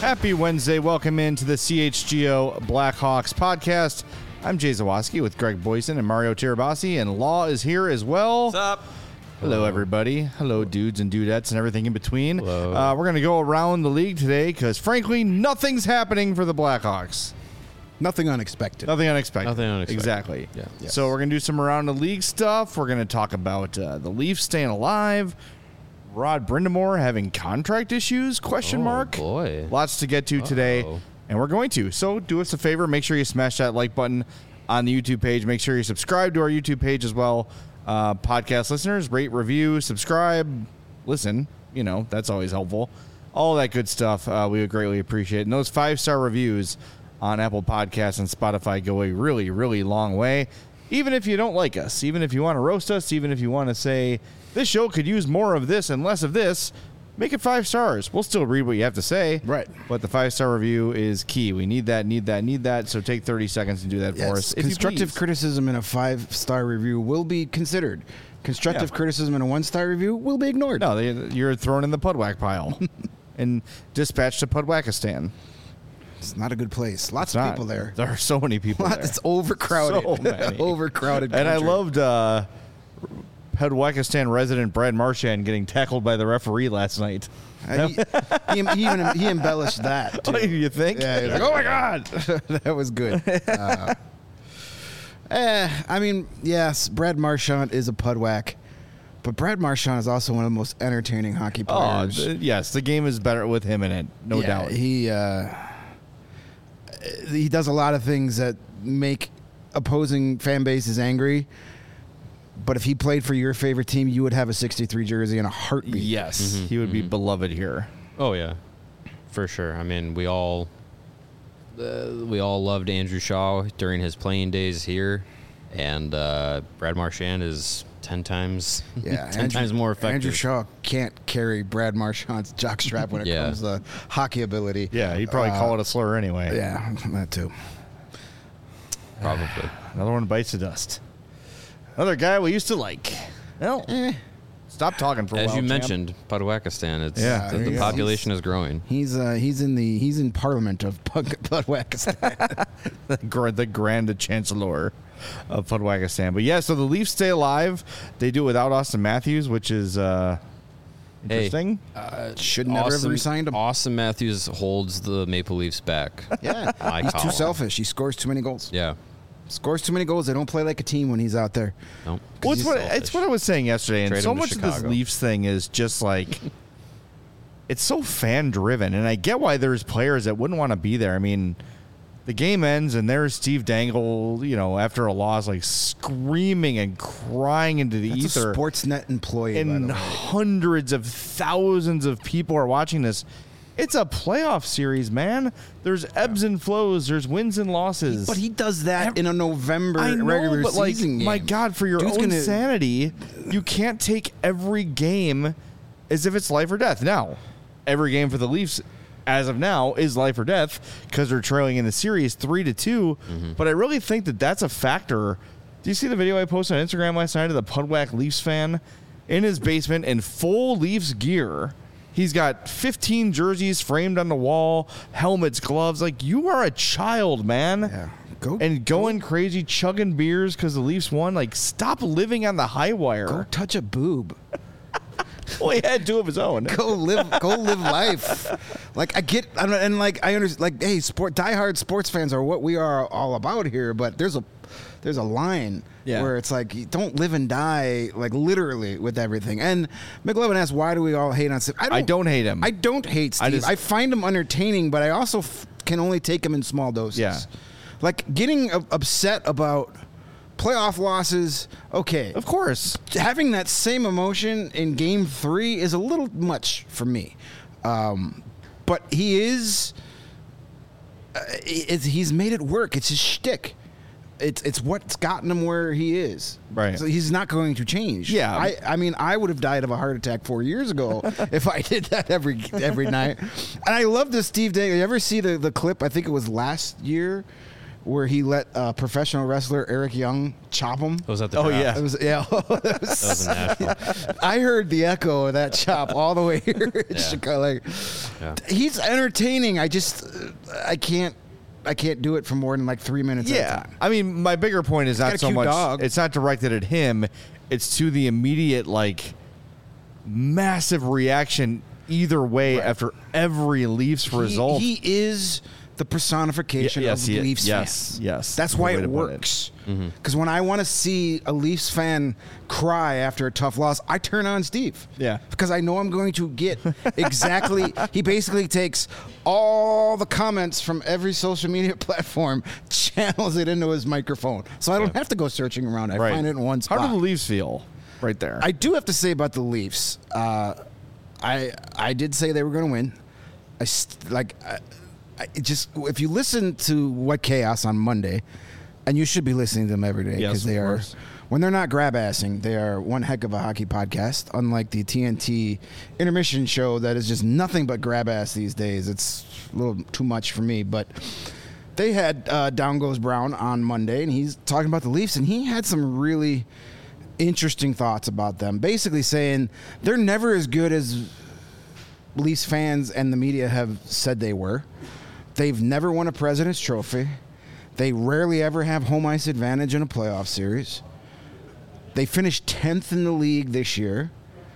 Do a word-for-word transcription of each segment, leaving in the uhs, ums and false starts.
Happy Wednesday. Welcome into the C H G O Blackhawks podcast. I'm Jay Zawoski with Greg Boyson and Mario Tirabassi, and Law is here as well. What's up? Hello, everybody. Hello, dudes and dudettes and everything in between. Hello. Uh, we're going to go around the league today because, frankly, nothing's happening for the Blackhawks. Nothing unexpected. Nothing unexpected. Nothing unexpected. Exactly. Yeah. Yes. So we're going to do some around the league stuff. We're going to talk about uh, the Leafs staying alive. Rod Brindamore having contract issues, question Oh, mark. boy. Lots to get to today, Uh-oh. and we're going to. So do us a favor. Make sure you smash that like button on the YouTube page. Make sure you subscribe to our YouTube page as well. Uh, podcast listeners, rate, review, subscribe, listen. You know, that's always helpful. All that good stuff uh, we would greatly appreciate. And those five-star reviews on Apple Podcasts and Spotify go a really, really long way. Even if you don't like us, even if you want to roast us, even if you want to say, this show could use more of this and less of this, make it five stars. We'll still read what you have to say. Right. But the five-star review is key. We need that, need that, need that. So take thirty seconds and do that Yes. for us. if you Constructive please. criticism in a five-star review will be considered. Constructive Yeah. criticism in a one-star review will be ignored. No, they, you're thrown in the Pudwack pile and dispatched to Pudwackistan. It's not a good place. Lots It's of not. people there. There are so many people there. It's overcrowded. So many. overcrowded. And I country. loved uh, Pudwackistan resident Brad Marchand getting tackled by the referee last night. Uh, he, he, he even he embellished that. Too. Oh, you think? Yeah, he was like, oh my God. That was good. Uh, eh, I mean, yes, Brad Marchand is a Pudwack, but Brad Marchand is also one of the most entertaining hockey Oh, players. th- yes, the game is better with him in it, no Yeah, doubt. He uh, he does a lot of things that make opposing fan bases angry. But if he played for your favorite team, you would have a sixty-three jersey in a heartbeat. Yes, Mhm, he would be mhm. beloved here. Oh yeah, for sure. I mean, we all uh, we all loved Andrew Shaw during his playing days here, and uh, Brad Marchand is ten times Yeah, ten Andrew- times more effective. Andrew Shaw can't carry Brad Marchand's jockstrap when it Yeah. comes to hockey ability. Yeah, he'd probably Uh, call it a slur anyway. Yeah, that too. probably. Another one bites the dust. Another guy we used to like. Well, Eh, stop talking for a As while, you champ. mentioned, Pudwackistan. It's Yeah, the, there the you go. population is growing. he's uh, he's in the he's in Parliament of Pud- Pudwackistan. the, gra- the Grand Chancellor of Pudwackistan. But yeah, so the Leafs stay alive. They do it without Austin Matthews, which is uh, Hey. interesting. uh, should never have Austin, re-signed him. Austin Matthews holds the Maple Leafs back. Yeah, I he's call too him. selfish. He scores too many goals. Yeah. Scores too many goals. They don't play like a team when he's out there. No. Well, it's he's what, selfish. it's what I was saying yesterday, and Trade so him to much of this Chicago. Leafs thing is just like it's so fan driven, and I get why there's players that wouldn't want to be there. I mean, the game ends, and there's Steve Dangle, you know, after a loss, like screaming and crying into the That's ether, a Sportsnet employee. by and the way. hundreds of thousands of people are watching this. It's a playoff series, man. There's ebbs and flows. There's wins and losses. But he does that Ev- in a November I know, regular but like, season game. my God, for your Dude's own gonna- sanity, you can't take every game as if it's life or death. Now, every game for the Leafs, as of now, is life or death because they're trailing in the series three to two. Mm-hmm. But I really think that that's a factor. Do you see the video I posted on Instagram last night of the Pudwack Leafs fan in his basement in full Leafs gear? He's got fifteen jerseys framed on the wall, helmets, gloves. Like, you are a child, man. Yeah. Go And going crazy, chugging beers because the Leafs won. Like, stop living on the high go wire. touch a boob. Well, he had two of his own. Go live. Go live life. Like I get, I don't, and like I understand. Like, hey, sport diehard sports fans are what we are all about here. But there's a there's a line Yeah. where it's like you don't live and die like literally with everything. And McLevin asks, why do we all hate on Steve? I I don't hate him. I don't hate Steve. I I, just- find him entertaining, but I also f- can only take him in small doses. Yeah. Like getting u- upset about playoff losses. Okay. Of course. Having that same emotion in game three is a little much for me. Um, but he is, uh, it's, he's made it work. It's his shtick. It's it's what's gotten him where he is. Right. So he's not going to change. Yeah. I, I mean, I would have died of a heart attack four years ago if I did that every every night. And I love this Steve Dangle. You ever see the, the clip? I think it was last year where he let uh, professional wrestler Eric Young chop him. Was that the Oh, draft? yeah. It was, yeah. That was in Nashville. I heard the echo of that chop all the way here. in Yeah. Chicago. Like, Yeah. he's entertaining. I just, uh, I can't, I can't do it for more than like three minutes at a Yeah, time. I mean, my bigger point is got not a so cute much. dog. It's not directed at him. It's to the immediate, like, massive reaction either way Right. after every Leafs He, result. he is the personification Ye- yes, of he- Leafs yes, fans. yes. That's Good why way it to put it. works. Because when I want to see a Leafs fan cry after a tough loss, I turn on Steve. Yeah. Because I know I'm going to get exactly. He basically takes all the comments from every social media platform, channels it into his microphone, so I don't Yeah. have to go searching around. I Right. find it in one spot. How do the Leafs feel right there? I do have to say about the Leafs. Uh, I I did say they were going to win. I st- like I, I it just if you listen to What Chaos on Monday, and you should be listening to them every day Yes, because they of are course. when they're not grab assing, they are one heck of a hockey podcast. Unlike the T N T intermission show that is just nothing but grab ass these days. It's a little too much for me, but. They had uh, Down Goes Brown on Monday, and he's talking about the Leafs, and he had some really interesting thoughts about them. Basically saying they're never as good as Leafs fans and the media have said they were. They've never won a President's Trophy. They rarely ever have home ice advantage in a playoff series. They finished tenth in the league this year.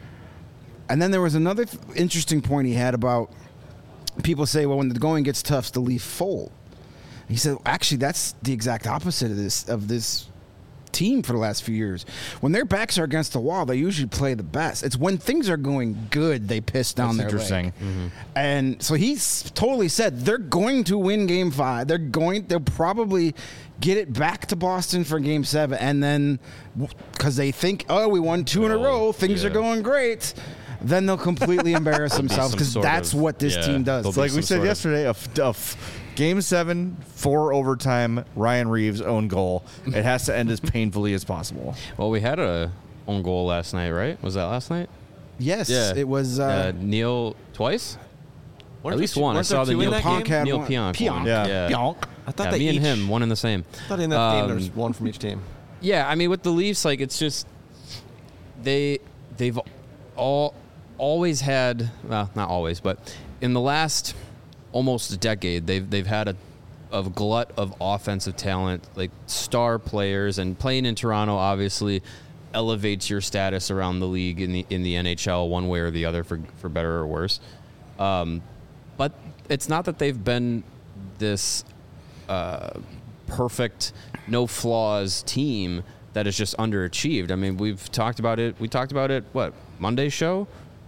And then there was another th- interesting point he had about people say, well, when the going gets tough, the Leaf fold. He said, actually, that's the exact opposite of this of this team for the last few years. When their backs are against the wall, they usually play the best. It's when things are going good, they piss down That's their interesting. leg. And so he's totally said they're going to win Game Five. They're going. They'll probably get it back to Boston for Game Seven, and then because they think, oh, we won two in a Oh, row, things are yeah. going great. Then they'll completely embarrass There'll be themselves some because sort that's of- what this yeah, team does. there'll It's like be we some said sort of- yesterday, a, f- a f- Game seven, four overtime, Ryan Reeves' own goal. It has to end as painfully as possible. Well, we had a own goal last night, right? Was that last night? Yes, Yeah. it was. Uh, Uh, Neil twice? Weren't At there least two- one. I weren't there saw the two in Neil that Pionk game? had Neil one. Pionk. Pionk. one. Yeah. yeah. Pionk. I thought Yeah, they me each, and him, one and the same. I thought in that game there was Um, one from each team. Yeah, I mean, with the Leafs, like it's just they they've all always had well, not always, but in the last almost a decade, they've they've had a of glut of offensive talent, like star players, and playing in Toronto obviously elevates your status around the league in the in the N H L one way or the other, for for better or worse. Um, but it's not that they've been this uh, perfect, no flaws team that is just underachieved. I mean, we've talked about it. We talked about it. What Monday's show?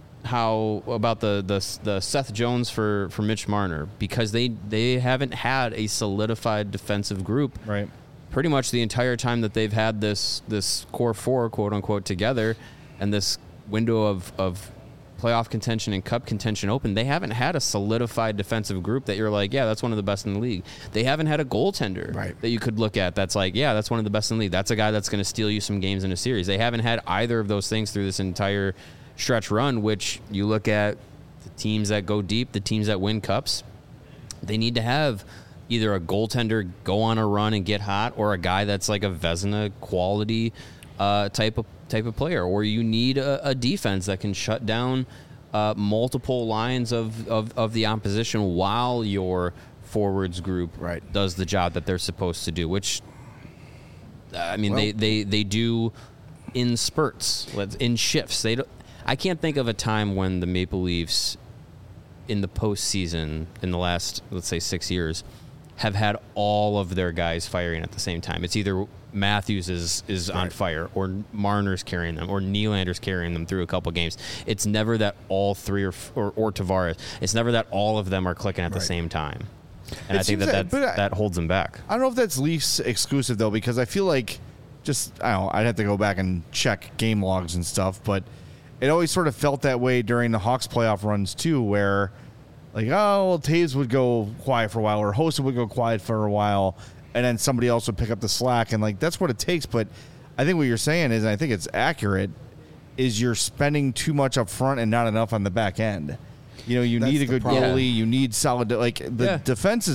How about the the the Seth Jones for for Mitch Marner, because they they haven't had a solidified defensive group Right. pretty much the entire time that they've had this this core four, quote unquote, together, and this window of of playoff contention and cup contention open. They haven't had a solidified defensive group that you're like, yeah, that's one of the best in the league. They haven't had a goaltender Right. that you could look at that's like, yeah, that's one of the best in the league. That's a guy that's going to steal you some games in a series. They haven't had either of those things through this entire stretch run, which you look at the teams that go deep, the teams that win cups, they need to have either a goaltender go on a run and get hot, or a guy that's like a Vezina quality uh, type of type of player, or you need a, a defense that can shut down uh, multiple lines of, of, of the opposition while your forwards group Right. does the job that they're supposed to do, which I mean, Well- they, they, they do in spurts, let's- in shifts. They don't, I can't think of a time when the Maple Leafs in the postseason in the last, let's say, six years have had all of their guys firing at the same time. It's either Matthews is, is on fire, or Marner's carrying them, or Nylander's carrying them through a couple games. It's never that all three, or or, or Tavares, it's never that all of them are clicking at the Right. same time. And It I think seems that that- that, but I- that holds them back. I don't know if that's Leafs exclusive though, because I feel like just I don't know, I'd have to go back and check game logs and stuff, but it always sort of felt that way during the Hawks playoff runs too, where like, oh, well, Taves would go quiet for a while, or Hossa would go quiet for a while, and then somebody else would pick up the slack, and like that's what it takes. But I think what you're saying is, and I think it's accurate, is you're spending too much up front and not enough on the back end. You know, you That's need a the good problem. goalie, you need solid, like the Yeah. defense is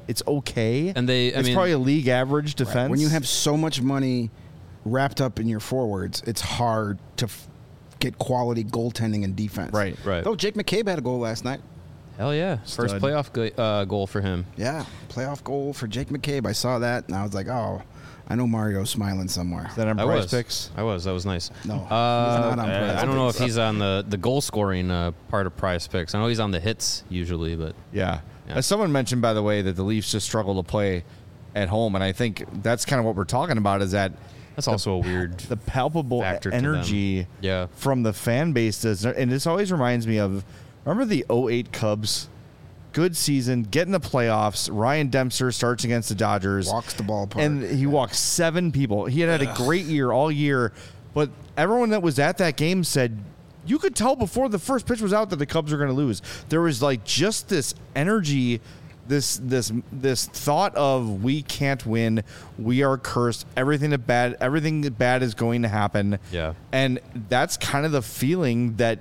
It's okay. And they- I it's mean- probably a league average defense. When you have so much money wrapped up in your forwards, it's hard to f- get quality goaltending and defense. Right. Right. Oh, Jake McCabe had a goal last night. Hell yeah. First Stud. playoff go- uh, goal for him. Yeah, playoff goal for Jake McCabe. I saw that, and I was like, oh, I know Mario's smiling somewhere. Is that on I Price was. Picks? I was. That was nice. No, he's Uh, not on I- Prize I don't know if Picks. he's on the, the goal scoring uh, part of Prize Picks. I know he's on the hits usually, but Yeah. Yeah. As someone mentioned, by the way, that the Leafs just struggle to play at home, and I think that's kind of what we're talking about. Is that that's also a weird. the palpable Factor to them. energy Yeah. from the fan base does, and this always reminds me of remember the oh eight Cubs, good season, get in the playoffs. Ryan Dempster starts against the Dodgers, Walks the ballpark. and he walked seven people. He had had a great year all year, but everyone that was at that game said you could tell before the first pitch was out that the Cubs were going to lose. There was like just this energy. This this this thought of we can't win, we are cursed. Everything that bad, everything that bad is going to happen. Yeah. And that's kind of the feeling that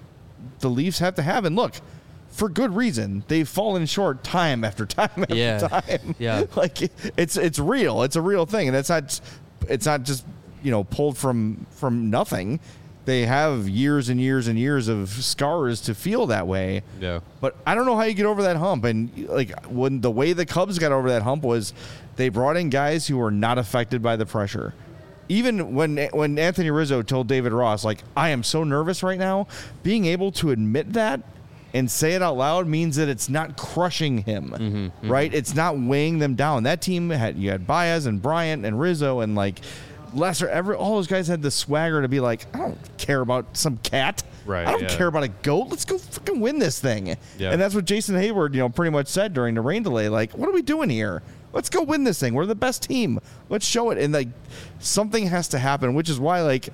the Leafs have to have. And look, for good reason, they've fallen short time after time after Yeah. time. Yeah. Like it's it's real. It's a real thing, and that's not it's not just you know pulled from from nothing. They have years and years and years of scars to feel that way. Yeah. But I don't know how you get over that hump. And like when the way the Cubs got over that hump was they brought in guys who were not affected by the pressure. Even when when Anthony Rizzo told David Ross, like, I am so nervous right now, being able to admit that and say it out loud means that it's not crushing him, Mm-hmm, right? It's not weighing them down. That team had you had Baez and Bryant and Rizzo and like Lesser. Every all those guys had the swagger to be like, I don't care about some cat. Right, I don't yeah. care about a goat. Let's go fucking win this thing. Yeah. And that's what Jason Hayward, you know, pretty much said during the rain delay. Like, what are we doing here? Let's go win this thing. We're the best team. Let's show it. And like, something has to happen, which is why like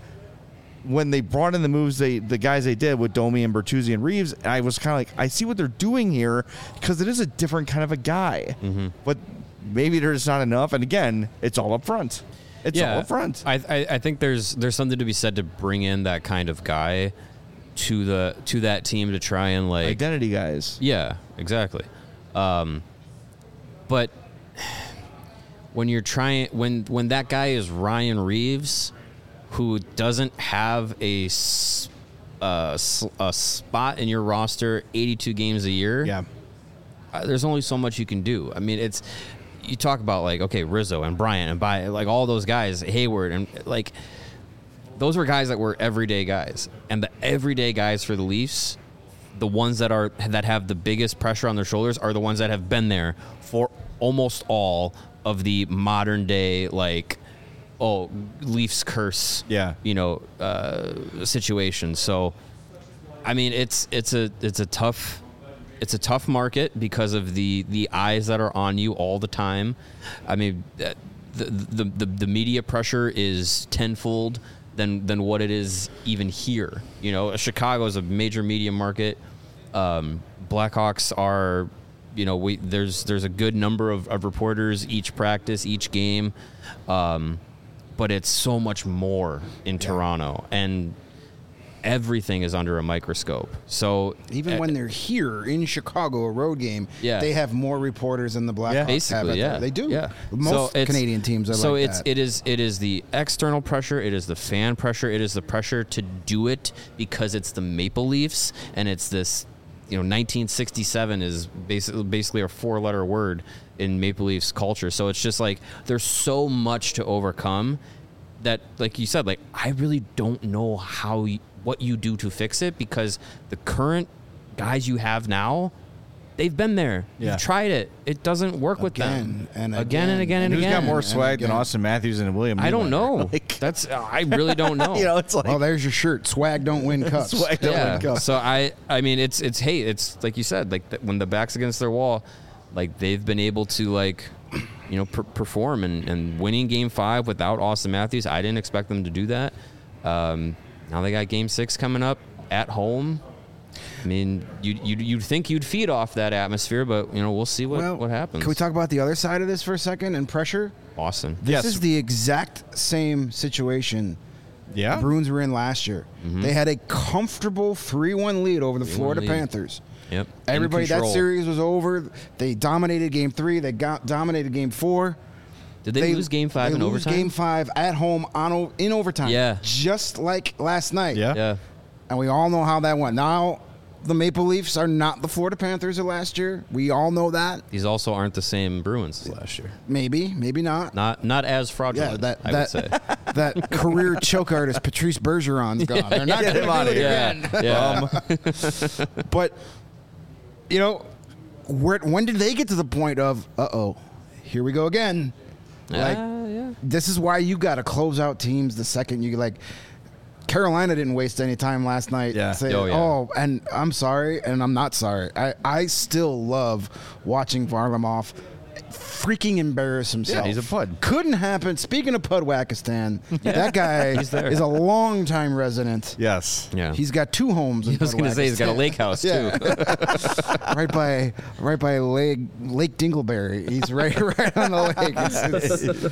when they brought in the moves, they the guys they did with Domi and Bertuzzi and Reeves, I was kind of like, I see what they're doing here because it is a different kind of a guy. Mm-hmm. But maybe there's not enough. And again, it's all up front. It's all up front. I, I I think there's there's something to be said to bring in that kind of guy to the to that team to try and like Identity guys. yeah, exactly. Um, but when you're trying when when that guy is Ryan Reeves, who doesn't have a s- uh, s- a spot in your roster eighty-two games a year, Yeah. uh, there's only so much you can do. I mean, it's you talk about like okay, Rizzo and Bryant and by like all those guys, Hayward and like those were guys that were everyday guys, and the everyday guys for the Leafs, the ones that are that have the biggest pressure on their shoulders are the ones that have been there for almost all of the modern day like oh Leafs curse Yeah. you know uh, situation. So I mean it's it's a it's a tough. It's a tough market because of the, the eyes that are on you all the time. I mean, uh, the the, the, the media pressure is tenfold than than what it is even here. You know, Chicago is a major media market. Um, Blackhawks are, you know, we there's there's a good number of, of reporters each practice, each game, um, but it's so much more in Toronto and. Everything is under a microscope. So Even uh, when they're here in Chicago, a road game, Yeah. they have more reporters than the Blackhawks have. basically, out yeah, there. They do. Yeah, Most So it's- Canadian teams are so like it's that. it is it is the external pressure, it is the fan pressure, it is the pressure to do it because it's the Maple Leafs and it's this. You know, nineteen sixty-seven is basically basically a four-letter word in Maple Leafs culture. So it's just like there's so much to overcome that, like you said, like I really don't know how you, what you do to fix it because the current guys you have now, they've been there. Yeah. You've tried it. It doesn't work with them. Again and again and again and Who's again. got more and swag than again. Austin Matthews and William? I don't Nylander? know. Like, That's I really don't know. you know, it's like Well, there's your shirt. Swag don't win cups. Swag don't yeah. win cups. So I, I mean, it's it's hey, it's like you said, like th- when the back's against their wall, like they've been able to like, you know, per- perform and, and winning Game Five without Austin Matthews. I didn't expect them to do that. Um, now they got Game Six coming up at home. I mean, you you you'd think you'd feed off that atmosphere, but you know we'll see what Well, what happens. Can we talk about the other side of this for a second and pressure? Boston? This Yes. is the exact same situation yeah. the Bruins were in last year. Mm-hmm. They had a comfortable three one lead over the Florida lead. Panthers. Yep. Everybody, In that control. series was over. They dominated game three. They got dominated game four. Did they, lose game five they in lose overtime? game five at home on o- in overtime. Yeah. Just like last night. Yeah. Yeah. And we all know how that went. Now, the Maple Leafs are not the Florida Panthers of last year. We all know that. These also aren't the same Bruins as last year. Maybe, maybe not. Not not as fraudulent. Yeah, that I that would say. that career choke artist Patrice Bergeron's gone. They're not Get going him outta to do it here. Yeah. again. yeah. But you know, where, when did they get to the point of, uh oh, here we go again? Like, Ah, yeah. this is why you got to close out teams the second you like. Carolina didn't waste any time last night. Yeah. Saying, Oh, yeah. oh, and I'm sorry, and I'm not sorry. I, I still love watching Varlamov freaking embarrass himself. Yeah, he's a pud. Couldn't happen. Speaking of Pudwakistan, that guy there. is a longtime resident. Yes. Yeah. He's got two homes in I was going to say he's got a Pudwakistan. lake house Yeah. too. right by right by Lake Lake Dingleberry. He's right right on the lake. It's- it's-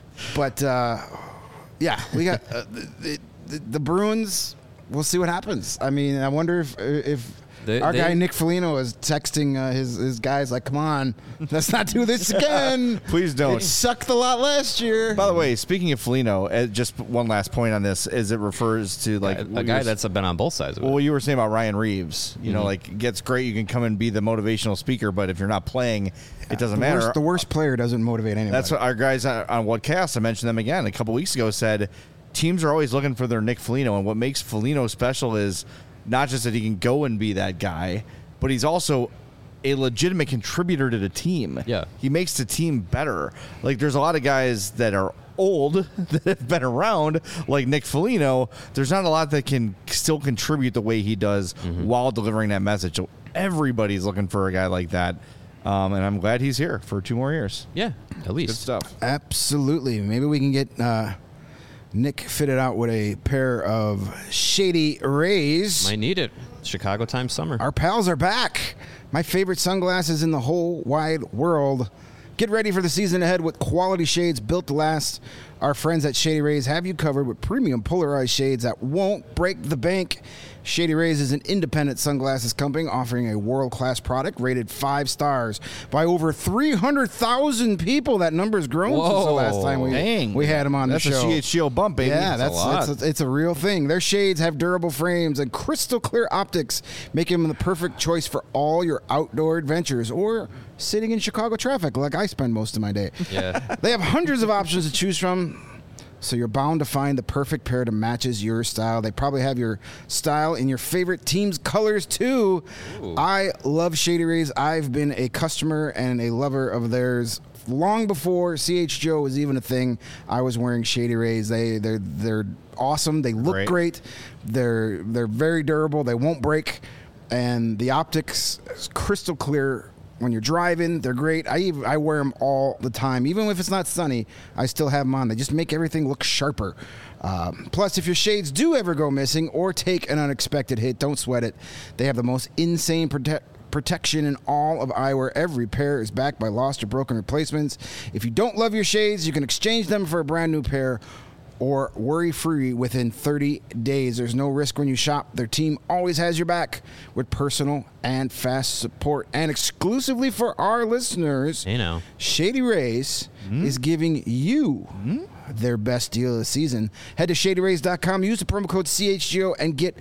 but uh, yeah, we got uh, the, the, the Bruins. We'll see what happens. I mean, I wonder if if They- our they- guy Nick Foligno is texting uh, his his guys like, "Come on, let's not do this again. Please don't." It sucked a lot last year." By the way, speaking of Foligno, uh, just one last point on this, as it refers to like a what you guy were- that's been on both sides of it. well, what you were saying about Ryan Reeves. You know, Mhm. like gets great. You can come and be the motivational speaker, but if you're not playing, it doesn't the matter. worst, the worst player doesn't motivate anybody. That's what our guys on, on Whatcast, I mentioned them again a couple weeks ago, said teams are always looking for their Nick Foligno, and what makes Foligno special is not just that he can go and be that guy, but he's also a legitimate contributor to the team. Yeah. He makes the team better. Like, there's a lot of guys that are old that have been around, like Nick Foligno. There's not a lot that can still contribute the way he does while delivering that message. So everybody's looking for a guy like that. Um, and I'm glad he's here for two more years. yeah, at least. Good stuff. Absolutely. Maybe we can get uh, Nick fitted out with a pair of Shady Rays. Might need it. Chicago time summer. Our pals are back. My favorite sunglasses in the whole wide world. Get ready for the season ahead with quality shades built to last. Our friends at Shady Rays have you covered with premium polarized shades that won't break the bank. Shady Rays is an independent sunglasses company offering a world-class product rated five stars by over three hundred thousand people. That number's grown since the Whoa. last time we, Dang. we had them on That's the show. a C H G O bump, baby. Yeah, That's that's, a lot. It's, a, it's a real thing. Their shades have durable frames and crystal clear optics, making them the perfect choice for all your outdoor adventures or sitting in Chicago traffic like I spend most of my day. Yeah. They have hundreds of options to choose from, so you're bound to find the perfect pair that matches your style. They probably have your style in your favorite team's colors too. Ooh. I love Shady Rays. I've been a customer and a lover of theirs long before C H G O was even a thing. I was wearing Shady Rays. They they're they're awesome. They look Great. great. They're they're very durable. They won't break, and the optics is crystal clear. When you're driving, they're great. I even, I wear them all the time. Even if it's not sunny, I still have them on. They just make everything look sharper. Um, plus, if your shades do ever go missing or take an unexpected hit, don't sweat it. They have the most insane prote- protection in all of eyewear. Every pair is backed by lost or broken replacements. If you don't love your shades, you can exchange them for a brand new pair or worry-free within thirty days. There's no risk when you shop. Their team always has your back with personal and fast support. And exclusively for our listeners, Hey now. Shady Rays is giving you their best deal of the season. Head to shady rays dot com, use the promo code C H G O, and get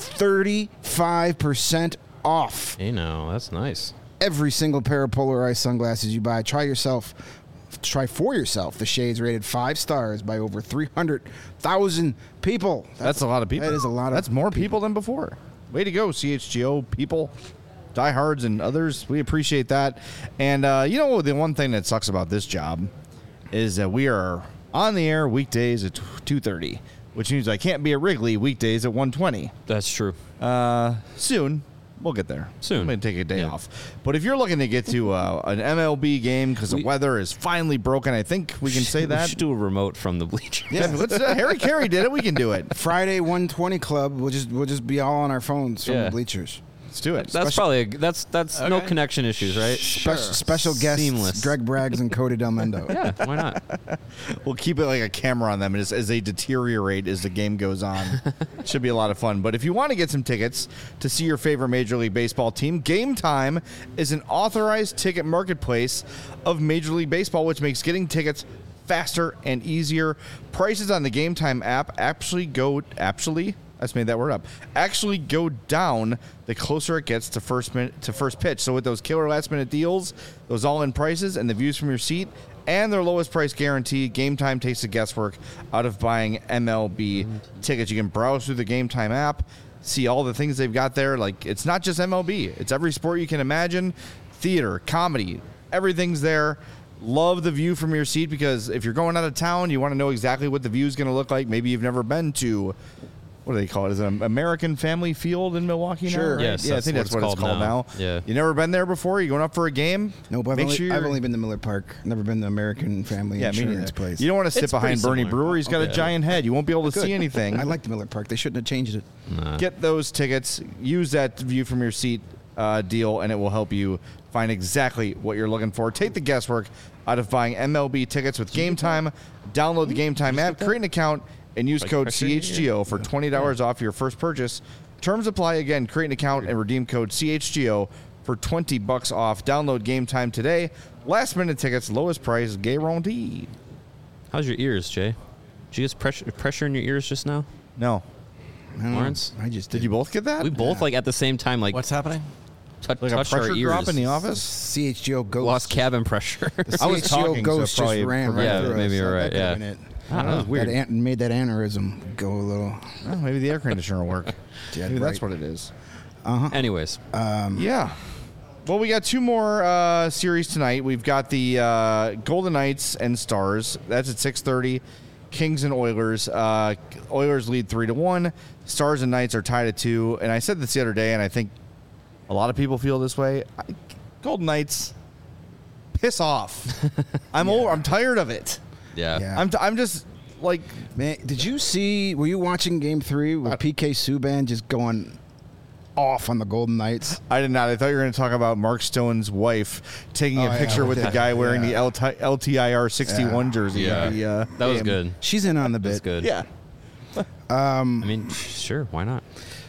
thirty-five percent off Hey now. That's nice. every single pair of polarized sunglasses you buy. Try yourself. Try for yourself the shades rated five stars by over three hundred thousand people. That's a lot of people. That is a lot of That's more people than before. Way to go, C H G O people, diehards, and others. We appreciate that. And uh, you know, the one thing that sucks about this job is that we are on the air weekdays at two thirty, which means I can't be at Wrigley weekdays at one twenty. That's true. Uh, soon. We'll get there. Soon. I'm going to take a day Yeah. off. But if you're looking to get to uh, an M L B game because the We- weather is finally broken, I think we can say We that. should do a remote from the bleachers. Yeah, let's, uh, Harry Carey did it. We can do it. Friday one twenty club. We'll just we'll just be all on our phones from Yeah. the bleachers. Let's do it. That's Special- probably a, that's that's no Okay. connection issues, right? Spe- Special guests, Seamless. Greg Braggs and Cody Del Mendo. Yeah, why not? We'll keep it like a camera on them as, as they deteriorate as the game goes on. Should be a lot of fun. But if you want to get some tickets to see your favorite Major League Baseball team, Game Time is an authorized ticket marketplace of Major League Baseball, which makes getting tickets faster and easier. Prices on the Game Time app actually go actually. I just made that word up. Actually, go down the closer it gets to first minute to first pitch. So with those killer last minute deals, those all in prices, and the views from your seat, and their lowest price guarantee, Game Time takes the guesswork out of buying M L B tickets. You can browse through the Game Time app, see all the things they've got there. Like, it's not just M L B; it's every sport you can imagine, theater, comedy, everything's there. Love the view from your seat, because if you're going out of town, you want to know exactly what the view is going to look like. Maybe you've never been to, what do they call it? Is it an American Family Field in Milwaukee now? Sure. Right? Yes, yeah, I that's think what that's it's what it's called called now. now. Yeah. You never been there before? You going up for a game? Nope, I've Make only, sure you're, I've only been to Miller Park. Never been to American Family yeah, me Insurance neither. place. You don't want to sit It's behind pretty Bernie similar. Brewer. He's got a Yeah. giant head. You won't be able to see anything. I like the Miller Park. They shouldn't have changed it. Nah. Get those tickets. Use that view from your seat uh, deal, and it will help you find exactly what you're looking for. Take the guesswork out of buying M L B tickets with Game Time. Download the Game Time app, create an account, and use Like code pressure? C H G O for twenty dollars off your first purchase. Terms apply. Again, create an account and redeem code C H G O for twenty bucks off. Download Game Time today. Last minute tickets, lowest price guaranteed. How's your ears, Jay? Did you get pressure pressure in your ears just now, No. I don't know. Lawrence? I just Did you both get that? We both like at the same time like What's happening? tou- like a touched our pressure ears. drop in the office? C H G O ghost. Lost cabin pressure. The I was C H G O talking, so ghost probably just ran right Yeah, through maybe us. you're That right, could've yeah. been it. I don't know. That was weird. That an- made that aneurysm go a little. Oh, maybe the air conditioner will work. Yeah, Maybe that's right. what it is. Anyways, Yeah. Well, we got two more uh, series tonight. We've got the uh, Golden Knights and Stars. That's at six thirty. Kings and Oilers. Uh, Oilers lead three to one. Stars and Knights are tied at two. And I said this the other day, and I think a lot of people feel this way. I, Golden Knights, piss off. I'm over. I'm tired of it. yeah. Yeah. I'm. T- I'm just like. Man, did you see? Were you watching Game Three with P K Subban just going off on the Golden Knights? I did not. I thought you were going to talk about Mark Stone's wife taking Oh, a yeah, picture with yeah, the guy wearing yeah. the L T- L T I R sixty-one Yeah. jersey. Yeah. of the, uh, That was game. good. She's in on the That's bit. good. Yeah. I mean, sure, why not?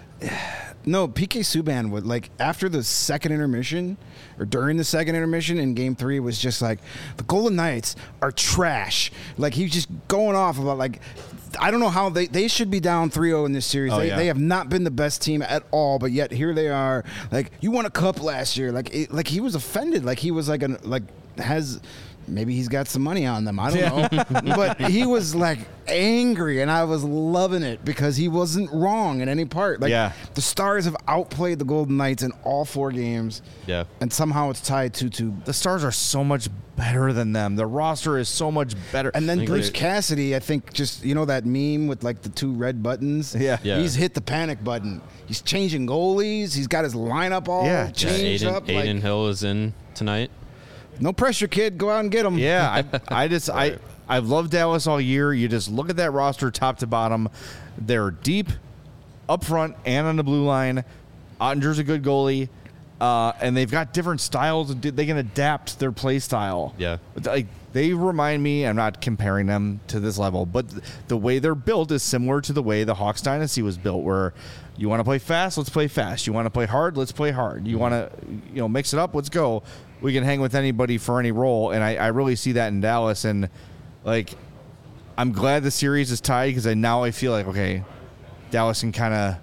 No, P K Subban would like after the second intermission or during the second intermission in Game Three was just like the Golden Knights are trash. Like he was just going off about like I don't know how they they should be down three oh in this series. Oh, they, yeah. they have not been the best team at all, but yet here they are. Like you won a cup last year. Like it, like he was offended. Like he was like an like has. Maybe he's got some money on them. I don't know. But he was like angry, and I was loving it because he wasn't wrong in any part. Like Yeah. the Stars have outplayed the Golden Knights in all four games. Yeah. And somehow it's tied two two. The Stars are so much better than them. The roster is so much better. And then I Bruce agree. Cassidy, I think, just you know that meme with like the two red buttons. Yeah. Yeah. He's hit the panic button. He's changing goalies. He's got his lineup all Yeah. Yeah, changed Aiden, up. Aiden Like, Hill is in tonight. no pressure, kid. Go out and get him. yeah, I, I just I I've loved Dallas all year. You just look at that roster, top to bottom. They're deep, up front, and on the blue line. Ottinger's a good goalie, uh, and they've got different styles. They can adapt their play style. Yeah. Like they remind me. I'm not comparing them to this level, but the way they're built is similar to the way the Hawks dynasty was built. Where you want to play fast, let's play fast. You want to play hard, let's play hard. You want to, you know, mix it up, let's go. We can hang with anybody for any role, and I, I really see that in Dallas. And like, I'm glad the series is tied because I now I feel like okay, Dallas can kind of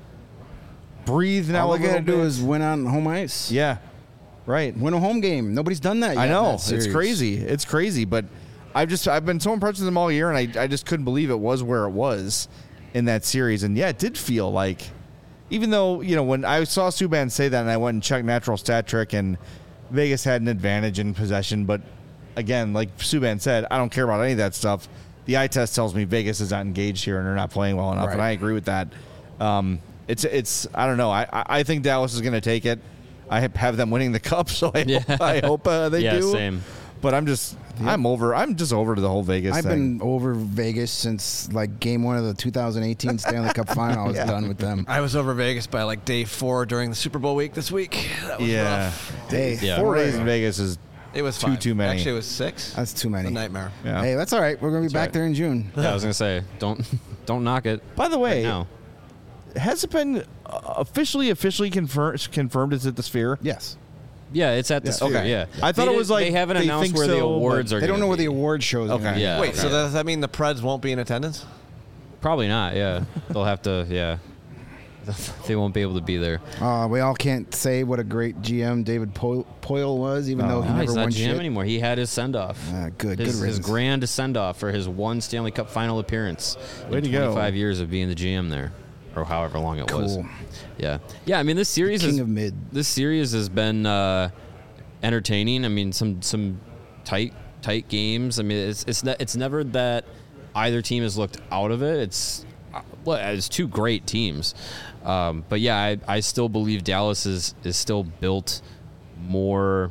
breathe now. All a they gotta little do bit. is win on home ice. yeah, right. Win a home game. Nobody's done that yet. I in know that it's series. crazy. It's crazy, but I've just I've been so impressed with them all year, and I I just couldn't believe it was where it was in that series. And yeah, it did feel like, even though you know when I saw Subban say that, and I went and checked Natural Stat Trick, and Vegas had an advantage in possession, but again, like Subban said, I don't care about any of that stuff. The eye test tells me Vegas is not engaged here, and they're not playing well enough, Right. and I agree with that. Um, it's it's I don't know. I I I think Dallas is going to take it. I have them winning the cup, so I Yeah. hope, I hope uh, they Yeah, do. same. But I'm just, I'm over. I'm just over to the whole Vegas I've thing. been over Vegas since like game one of the two thousand eighteen Stanley Cup Final. I was Yeah. done with them. I was over Vegas by like day four during the Super Bowl week this week. That was yeah. rough. Hey, Yeah. Four days in Vegas is It was Too, fine. too many. Actually, it was six. that's too many. A nightmare. yeah. Hey, that's all right. We're going to be back right. there in June. Yeah, I was gonna say, don't don't knock it. By the way, right now. has it been uh, officially officially confirmed? Confirmed? Is it the Sphere? Yes. Yeah, it's at the Yeah. Sphere. Okay. Yeah, I thought They it was did- like they haven't they announced think where the so, awards but are. They don't gonna know where be. the award show is Okay. going to be. Yeah. Wait, so does that mean the Preds won't be in attendance? Probably not. Yeah, they'll have to. Yeah, they won't be able to be there. Uh, we all can't say what a great G M David Po- Poyle was, even though he No, never he's won not G M shit. anymore. He had his send off. Uh, good, his, good his riddance. grand send off for his one Stanley Cup final appearance. Way in to go. twenty-five years of being the G M there, or however long it was. Cool. Yeah, yeah. I mean, this series King is, of mid. This series has been uh, entertaining. I mean, some some tight tight games. I mean, it's it's ne- it's never that either team has looked out of it. It's uh, well, it's two great teams. Um, but yeah, I, I still believe Dallas is is still built more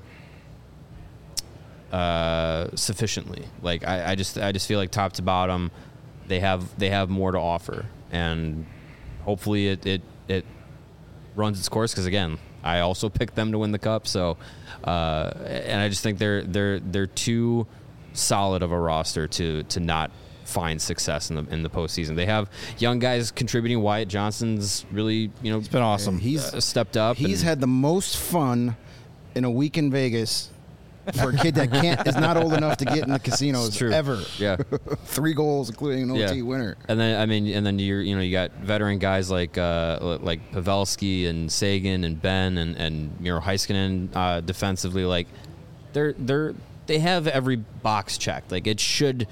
uh, sufficiently. Like I, I just I just feel like top to bottom, they have they have more to offer, and hopefully it it, it runs its course. Because again, I also picked them to win the cup. So, uh, and I just think they're they're they're too solid of a roster to to not find success in the in the postseason. They have young guys contributing. Wyatt Johnson's really you know It's been awesome. He's uh, stepped up. He's and- had the most fun in a week in Vegas for a kid that can't is not old enough to get in the casinos It's true. ever. yeah. Three goals, including an O T Yeah. winner. And then I mean, and then you're you know you got veteran guys like uh, like Pavelski and Sagan and Ben and and Miro Heiskanen uh, defensively. Like they're they're they have every box checked. Like it should.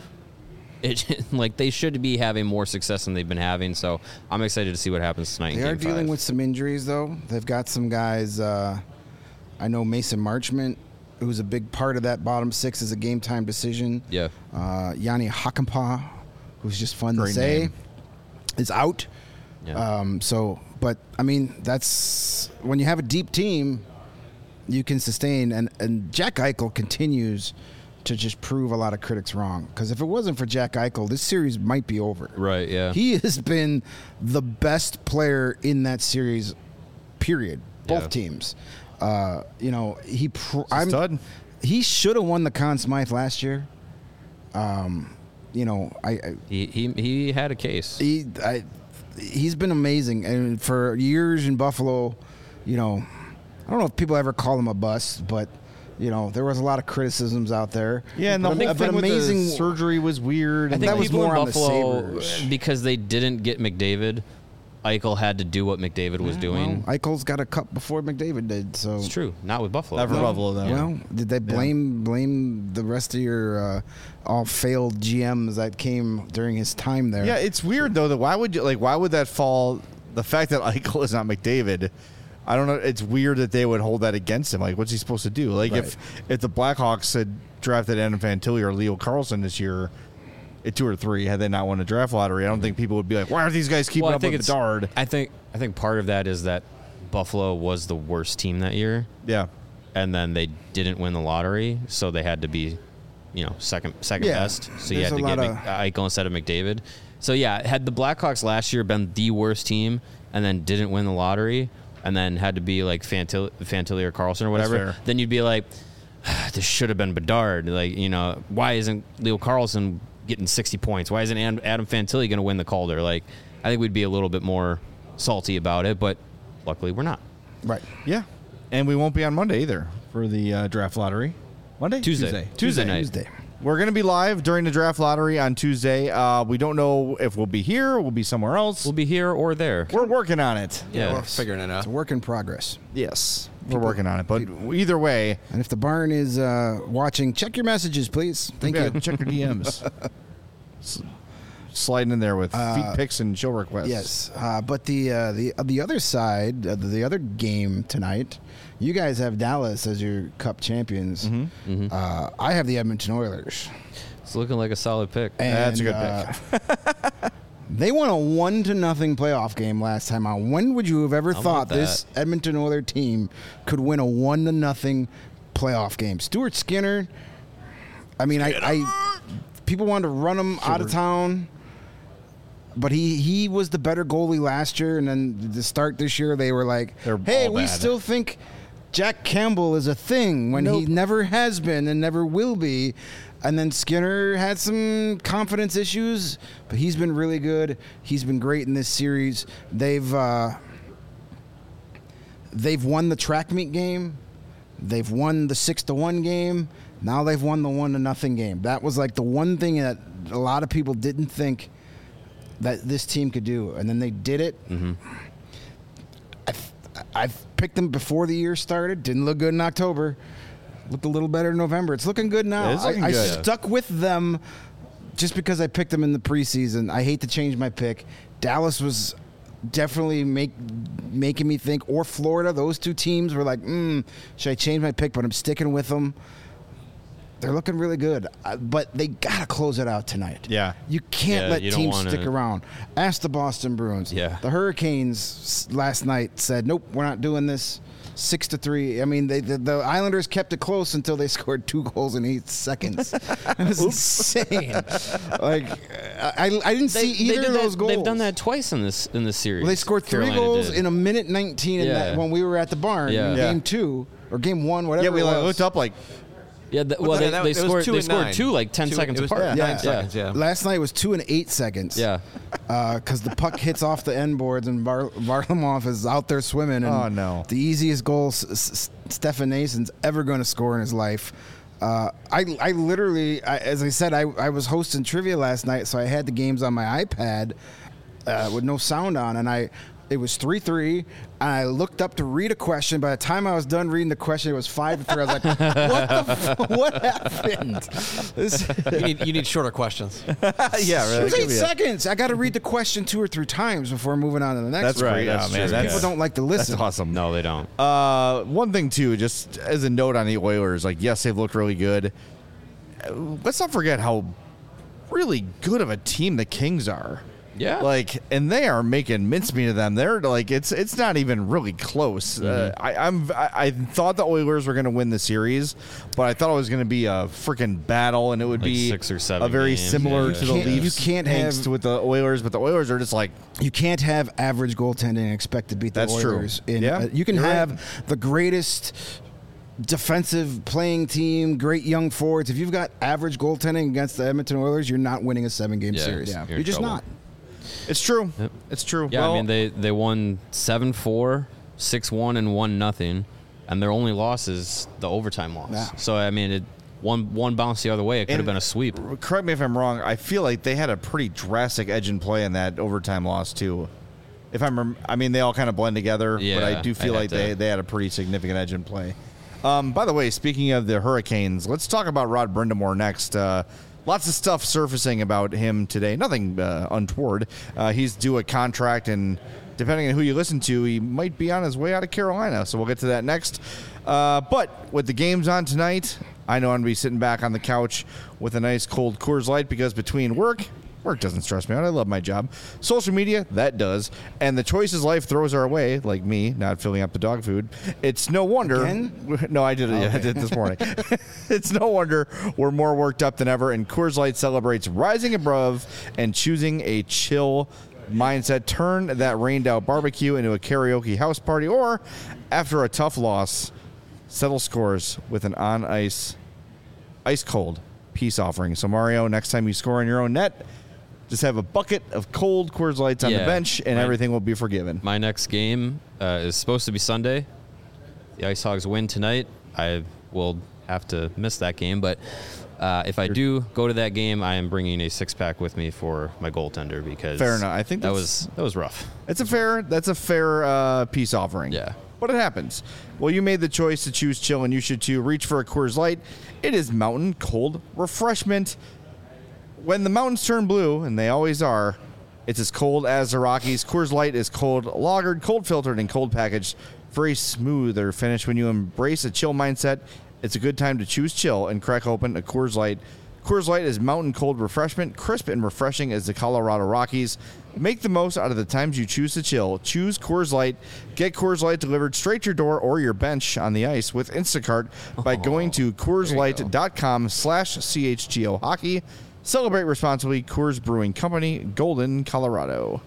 It like they should be having more success than they've been having. So I'm excited to see what happens tonight. They in are Game dealing five. with some injuries, though. They've got some guys. Uh, I know Mason Marchment, who's a big part of that bottom six, is a game time decision. Yeah. Uh, Yanni Hakanpää, who's just fun Great to say, name. is out. Yeah. Um, so, but I mean, that's when you have a deep team, you can sustain. And, and Jack Eichel continues to just prove a lot of critics wrong. Because if it wasn't for Jack Eichel, this series might be over. Right. Yeah. He has been the best player in that series, period. Both Yeah. teams. Uh, you know, he. Pr- a I'm, stud. He should have won the Conn Smythe last year. Um, you know, I, I he, he he had a case. he I, he's been amazing, and for years in Buffalo, you know, I don't know if people ever call him a bust, but you know, there was a lot of criticisms out there. Yeah, and the But whole but thing with amazing the surgery was weird. I and think that was people more in on the Buffalo, Sabres. because they didn't get McDavid, Eichel had to do what McDavid was doing. Well, Eichel's got a cup before McDavid did, so It's true. Not with Buffalo. Not for No. Buffalo, though. Well, did they blame blame the rest of your uh, all failed G Ms that came during his time there? Yeah, it's weird though that why would you like why would that fall? The fact that Eichel is not McDavid, I don't know. It's weird that they would hold that against him. Like, what's he supposed to do? Like, if if the Blackhawks had drafted Adam Fantilli or Leo Carlson this year at two or three, had they not won a draft lottery, I don't think people would be like, why are these guys keeping Well, I up think with it's. Bedard? I think. I think part of that is that Buffalo was the worst team that year, Yeah, and then they didn't win the lottery, so they had to be, you know, second second Yeah, best. So you there's had to a get lot Mc, of- Eichel instead of McDavid. So yeah, had the Blackhawks last year been the worst team and then didn't win the lottery, and then had to be like Fantilli, Fantilli or Carlson or That's whatever, fair. then you'd be like, this should have been Bedard. Like, you know, why isn't Leo Carlson getting sixty points? Why isn't Adam Adam Fantilli going to win the Calder? Like, I think we'd be a little bit more salty about it, but luckily we're not. right. yeah, and we won't be on Monday either for the uh, draft lottery. Monday, Tuesday. Tuesday, Tuesday night. Tuesday. We're going to be live during the draft lottery on Tuesday. Uh, we don't know if we'll be here or we'll be somewhere else. We'll be here or there. We're working on it. Yeah. We're figuring it out. It's a work in progress. Yes, we're working on it. But either way, And if the barn is uh, watching, check your messages, please. Thank yeah, you. check your D Ms. S- Sliding in there with feet pics and show requests. Yes, uh, but the uh, the uh, the other side, uh, the other game tonight, you guys have Dallas as your Cup champions. Mm-hmm. Uh, I have the Edmonton Oilers. It's looking like a solid pick. And, That's a good uh, They won a one to nothing playoff game last time out. When would you have ever How thought about this Edmonton Oilers team could win a one to nothing playoff game? Stuart Skinner, I mean, I, I people wanted to run him out of town, but he, he was the better goalie last year, and then to start this year, they were like, They're hey, all we bad. still think Jack Campbell is a thing when he Nope. never has been and never will be. And then Skinner had some confidence issues, but he's been really good. He's been great in this series. They've uh, they've won the track meet game. They've won the six to one game. Now they've won the one to nothing game. That was like the one thing that a lot of people didn't think that this team could do, and then they did it. Mm-hmm. I've, I've picked them before the year started. Didn't look good in October. Looked a little better in November. It's looking good now. It is looking I, I good. stuck with them just because I picked them in the preseason. I hate to change my pick. Dallas was definitely make making me think, or Florida. Those two teams were like, mm, should I change my pick? But I'm sticking with them. They're looking really good, uh, but they gotta close it out tonight. Yeah. You can't Yeah, let you don't teams wanna- stick around. Ask the Boston Bruins. Yeah. The Hurricanes s- last night said, nope, we're not doing this. Six to three. I mean, they, the, the Islanders kept it close until they scored two goals in eight seconds. It was insane. Like, I, I didn't see either did of that- those goals. They've done that twice in this in this series. Well, they scored three Carolina goals did. in a minute nineteen in Yeah. that, when we were at the barn Yeah. in Yeah. game two or game one, whatever Yeah, we it like, was. looked up like Yeah, the, well, Well, they, that- they it was scored. two They and scored nine. two like ten Two- seconds it was apart. nine Yeah. seconds, yeah. Last night was two and eight seconds. Yeah. Because the puck hits off the end boards and Var- Varlamov is out there swimming. And Oh, no. The easiest goal S- S- Stefan Nason's ever going to score in his life. Uh, I, I literally, I, as I said, I, I was hosting trivia last night, so I had the games on my iPad uh, with no sound on, and I. It was three three, and I looked up to read a question. By the time I was done reading the question, it was five to three. I was like, what the f- what happened? This, You need, you need shorter questions. yeah, it really. was eight seconds. I got to read the question two or three times before moving on to the next That's one. great. That's oh, man, true, that's, People don't like to listen. That's awesome. No, they don't. Uh, one thing too, just as a note on the Oilers, like yes, they've looked really good. Uh, Let's not forget how really good of a team the Kings are. Yeah. Like, and they are making mincemeat of them. They're like, it's it's not even really close. Uh, I, I'm I, I thought the Oilers were going to win the series, but I thought it was going to be a freaking battle, and it would Like be six or seven a very games, similar yeah. to the You can't- you Leafs. can't angst have- with the Oilers, but the Oilers are just like, You can't have average goaltending and expect to beat the That's true. Oilers. In, Yeah, uh, you can you're right. have the greatest defensive playing team, great young forwards. If you've got average goaltending against the Edmonton Oilers, you're not winning a seven-game Yeah, series. yeah. You're, You're in just trouble. not. it's true. Yep. It's true. Yeah, Well, I mean they they won seven four, six one, and one nothing, and their only loss is the overtime loss. Yeah. So I mean, it one one bounce the other way, it could have And- been a sweep. correct me if I'm wrong. I feel like they had a pretty drastic edge in play in that overtime loss too. If I'm, rem- I mean, they all kind of blend together, but I Yeah, do feel I'd like have they, to- they had a pretty significant edge in play. Um, by the way, speaking of the Hurricanes, let's talk about Rod Brindamore next. Uh, lots of stuff surfacing about him today. Nothing uh, untoward. Uh, he's due a contract, and depending on who you listen to, he might be on his way out of Carolina. So we'll get to that next. Uh, but with the games on tonight, I know I'm going to be sitting back on the couch with a nice cold Coors Light because between work, work doesn't stress me out. I love my job. Social media, that does. And the choices life throws our way, like me, not filling up the dog food. It's no wonder. Again? No, I did it. Yeah, I did it this morning. It's no wonder we're more worked up than ever. And Coors Light celebrates rising above and choosing a chill mindset. Turn that rained out barbecue into a karaoke house party, or after a tough loss, settle scores with an on ice, ice cold peace offering. So Mario, next time you score in your own net, just have a bucket of cold Coors Lights on the Yeah, bench, and right. everything will be forgiven. My next game uh, is supposed to be Sunday. The Ice Hogs win tonight. I will have to miss that game, but uh, if I do go to that game, I am bringing a six pack with me for my goaltender because Fair enough. I think that that's- was that was rough. It's a fair. That's a fair uh, peace offering. Yeah. But it happens. Well, you made the choice to choose chill, and you should too. Reach for a Coors Light. It is mountain cold refreshment. When the mountains turn blue, and they always are, it's as cold as the Rockies. Coors Light is cold lagered, cold filtered, and cold packaged for a smoother finish. When you embrace a chill mindset, it's a good time to choose chill and crack open a Coors Light Coors Light is mountain cold refreshment, crisp and refreshing as the Colorado Rockies. Make the most out of the times you choose to chill. Choose Coors Light. Get Coors Light delivered straight to your door or your bench on the ice with Instacart by Oh, going to Coors Light dot com slash C H G O hockey. Celebrate responsibly. Coors Brewing Company, Golden, Colorado.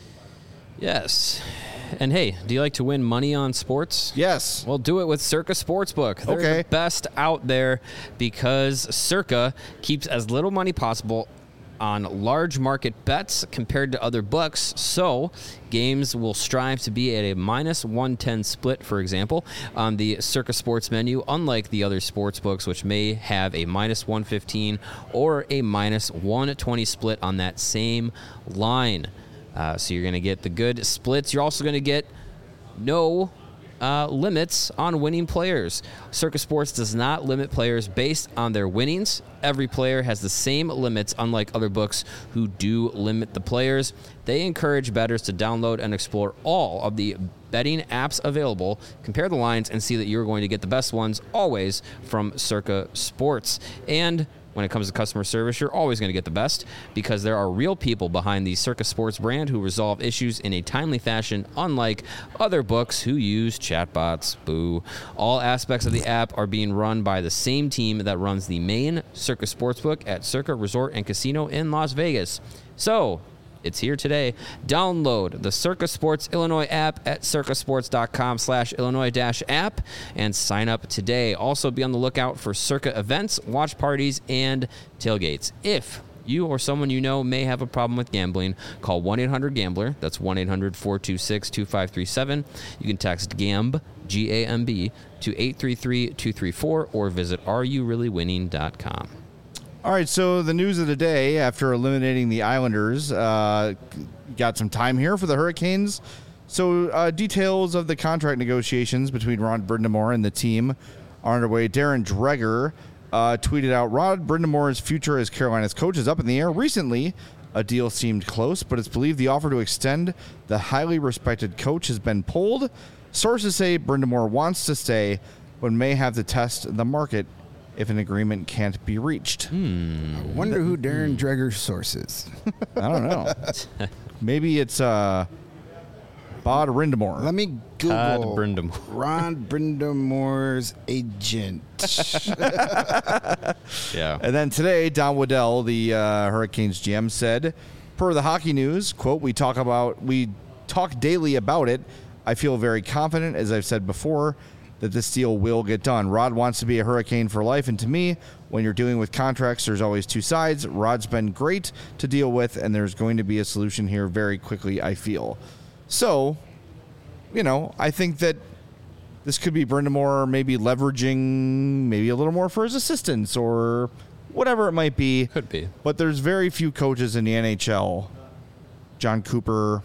Yes. And hey, do you like to win money on sports? Yes. Well, do it with Circa Sportsbook. They're Okay. the best out there because Circa keeps as little money possible on large market bets compared to other books. So games will strive to be at a minus one ten split, for example, on the Circa Sports menu, unlike the other sports books, which may have a minus one fifteen or a minus one twenty split on that same line. Uh, so you're going to get the good splits. You're also going to get no uh, limits on winning players. Circa Sports does not limit players based on their winnings. Every player has the same limits, unlike other books who do limit the players. They encourage bettors to download and explore all of the betting apps available, compare the lines, and see that you're going to get the best ones always from Circa Sports. And when it comes to customer service, you're always going to get the best because there are real people behind the Circa Sports brand who resolve issues in a timely fashion, unlike other books who use chatbots. Boo. All aspects of the app are being run by the same team that runs the main Circa Sportsbook at Circa Resort and Casino in Las Vegas. So, it's here today. Download the Circa Sports Illinois app at circasports.com slash Illinois dash app and sign up today. Also, be on the lookout for Circa events, watch parties, and tailgates. If you or someone you know may have a problem with gambling, call one eight hundred gambler. That's one eight hundred four two six two five three seven. You can text GAMB, G A M B, to eight three three two three four or visit are you really winning dot com. All right, so the news of the day after eliminating the Islanders, uh, got some time here for the Hurricanes. So uh, details of the contract negotiations between Rod Brind'Amour and the team are underway. Darren Dreger uh, tweeted out, Rod Brind'Amour's future as Carolina's coach is up in the air. Recently, a deal seemed close, but it's believed the offer to extend the highly respected coach has been pulled. Sources say Brind'Amour wants to stay, but may have to test the market if an agreement can't be reached. Hmm. I wonder who Darren Dreger's source is. I don't know. Maybe it's uh, Bod Brind'Amour. Let me Google Todd Brind'Amour. Ron Brind'Amour's agent. Yeah. And then today, Don Waddell, the uh, Hurricanes G M, said, per the Hockey News, quote, we talk about, we talk daily about it. I feel very confident, as I've said before, that this deal will get done. Rod wants to be a Hurricane for life, and to me, when you're dealing with contracts, there's always two sides. Rod's been great to deal with, and there's going to be a solution here very quickly, I feel. So, you know, I think that this could be Brind'Amour maybe leveraging maybe a little more for his assistants or whatever it might be. Could be. But there's very few coaches in the N H L. John Cooper,